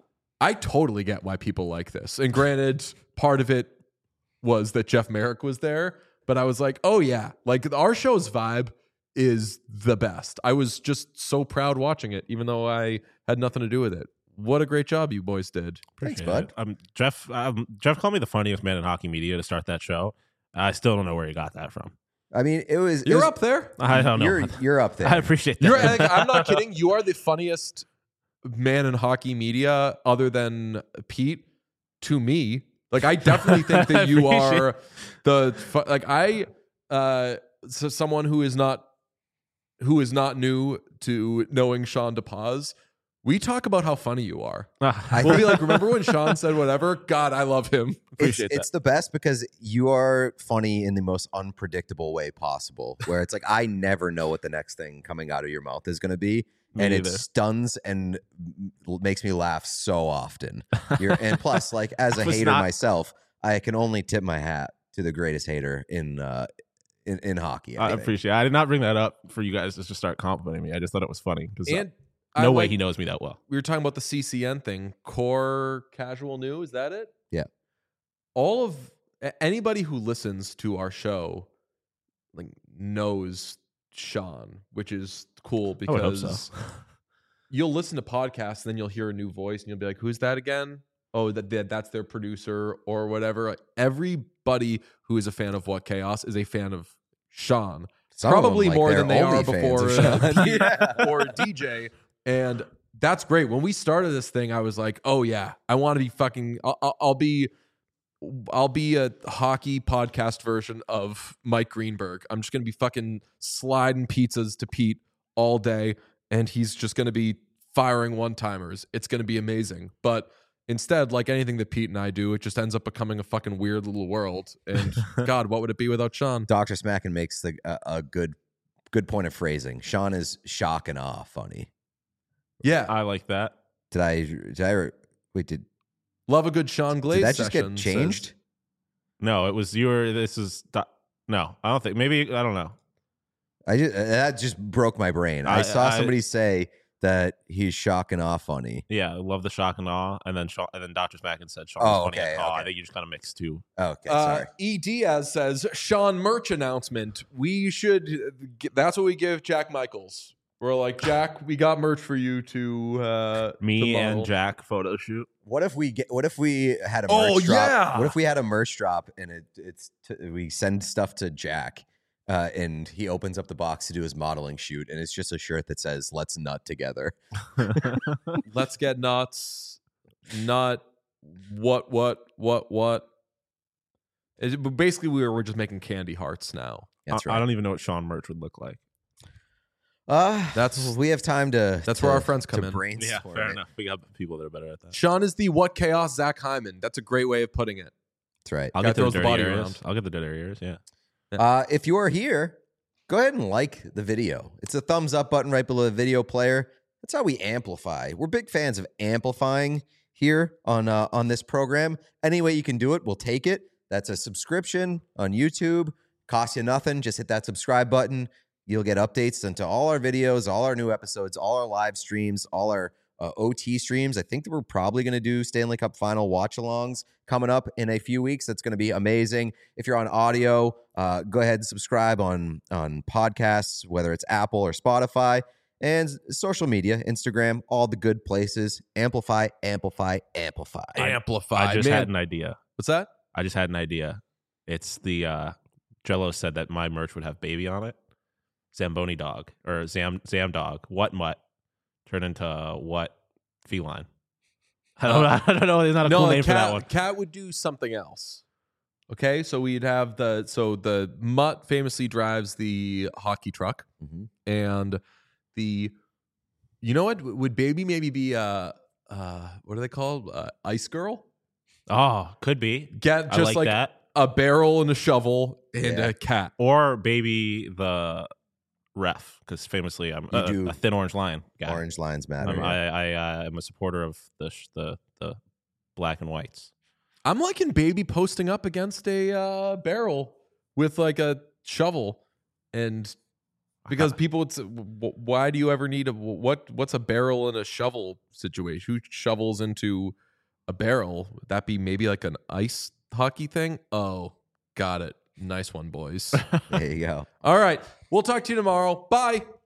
I totally get why people like this. And granted, part of it was that Jeff Merrick was there, but I was like, oh yeah, like our show's vibe is the best. I was just so proud watching it, even though I had nothing to do with it. What a great job you boys did. Thanks, Appreciate bud. it. Um, Jeff, um, Jeff called me the funniest man in hockey media to start that show. I still don't know where he got that from. I mean, it was. it You're was- up there. I don't know. You're you're up there. I appreciate that. You're, like, I'm not kidding. You are the funniest man in hockey media, other than Pete, to me. Like, I definitely think that you Appreciate- are the fu- like I uh so someone who is not who is not new to knowing Sean DePaz. We talk about how funny you are. I- We'll be like, remember when Sean said whatever? God, I love him. It's, Appreciate that. it's the best because you are funny in the most unpredictable way possible. Where it's like I never know what the next thing coming out of your mouth is going to be, Me and it neither. stuns and m- makes me laugh so often. You're, and plus, like as a I was hater not- myself, I can only tip my hat to the greatest hater in uh, in, in hockey. I I think. appreciate it. I did not bring that up for you guys to just start complimenting me. I just thought it was funny because And no I way like- he knows me that well. we were talking about the C C N thing, core casual new. Is that it? Yeah. All of a- anybody who listens to our show, like, knows Sean, which is cool I would hope because so. you'll listen to podcasts and then you'll hear a new voice and you'll be like, "Who's that again?" Oh, that, that that's their producer or whatever. Like, everybody who is a fan of What Chaos is a fan of Sean. Some of them, Probably like, more they're than they are only fans before of uh, Sean. Pete Yeah. or D J. And that's great. When we started this thing, I was like, "Oh yeah, I want to be fucking. I'll, I'll- I'll be, I'll be a hockey podcast version of Mike Greenberg. I'm just gonna be fucking sliding pizzas to Pete all day, and he's just gonna be firing one timers. It's gonna be amazing." But instead, like anything that Pete and I do, it just ends up becoming a fucking weird little world. And God, what would it be without Sean? Doctor Smackin makes the a, a good good point of phrasing. Sean is shock and awe funny. Yeah, I like that. Did I? Did I? Wait, did love a good Sean Glaze. did that just session, get says- changed? No, it was your. This is do- no. I don't think. Maybe I don't know. I just that just broke my brain. I, I- saw I- somebody say that he's shock and awe funny. Yeah, I love the shock and awe, and then Sean, and then Doctor Smackin said Sean Oh, was funny. okay, and awe. I okay. think you just kind of mixed two. Okay, Uh, sorry. E. Diaz says Sean merch announcement. We should. That's what we give Jack Michaels. We're like, Jack, we got merch for you to uh, Me to and model." Jack photo shoot. What if we get? What if we had a merch Oh, drop? yeah. What if we had a merch drop and it, it's t- we send stuff to Jack, uh, and he opens up the box to do his modeling shoot, and it's just a shirt that says "Let's nut together." Let's get nuts. Nut. What? What? What? What? It, but basically, we were, we're just making candy hearts now. That's I, right. I don't even know what Sean merch would look like. Uh, That's- we have time to. that's to- where our friends come to in. brainstorm fair it. enough. We got people that are better at that. Sean is the what chaos Zach Hyman. That's a great way of putting it. That's right. I'll Guy get the throws the dirty body areas. around. I'll get the dirty areas. Yeah. Uh, if you are here, go ahead and like the video. It's a thumbs up button right below the video player. That's how we amplify. We're big fans of amplifying here on uh, on this program. Any way you can do it, we'll take it. That's a subscription on YouTube. Costs you nothing. Just hit that subscribe button. You'll get updates into all our videos, all our new episodes, all our live streams, all our uh, O T streams. I think that we're probably going to do Stanley Cup final watch-alongs coming up in a few weeks. That's going to be amazing. If you're on audio, uh, go ahead and subscribe on on podcasts, whether it's Apple or Spotify. And social media, Instagram, all the good places. Amplify, amplify, amplify. Amplify. I just Man. had an idea. What's that? I just had an idea. It's the uh, Jello said that my merch would have baby on it. Zamboni dog or Zam Zam dog. What mutt turn into what feline? I don't, Uh, I don't know. There's not a no, cool a name for that cat, one. cat would do something else. Okay, so we'd have the so the mutt famously drives the hockey truck, Mhm. and the you know what would baby maybe be uh uh what are they called uh, ice girl? Oh, could be. Get I just like, like that. a barrel and a shovel and Yeah. a cat. Or baby the ref, because famously I'm You a, do. a thin orange line guy. Orange lines matter. I'm, yeah. I I uh, am a supporter of the sh- the the black and whites. I'm liking baby posting up against a uh, barrel with like a shovel, and because people would say, "W- why do you ever need a what? What's a barrel and a shovel situation? Who shovels into a barrel? Would that be maybe like an ice hockey thing? Oh, got it. Nice one, boys. There you go. All right, we'll talk to you tomorrow. Bye.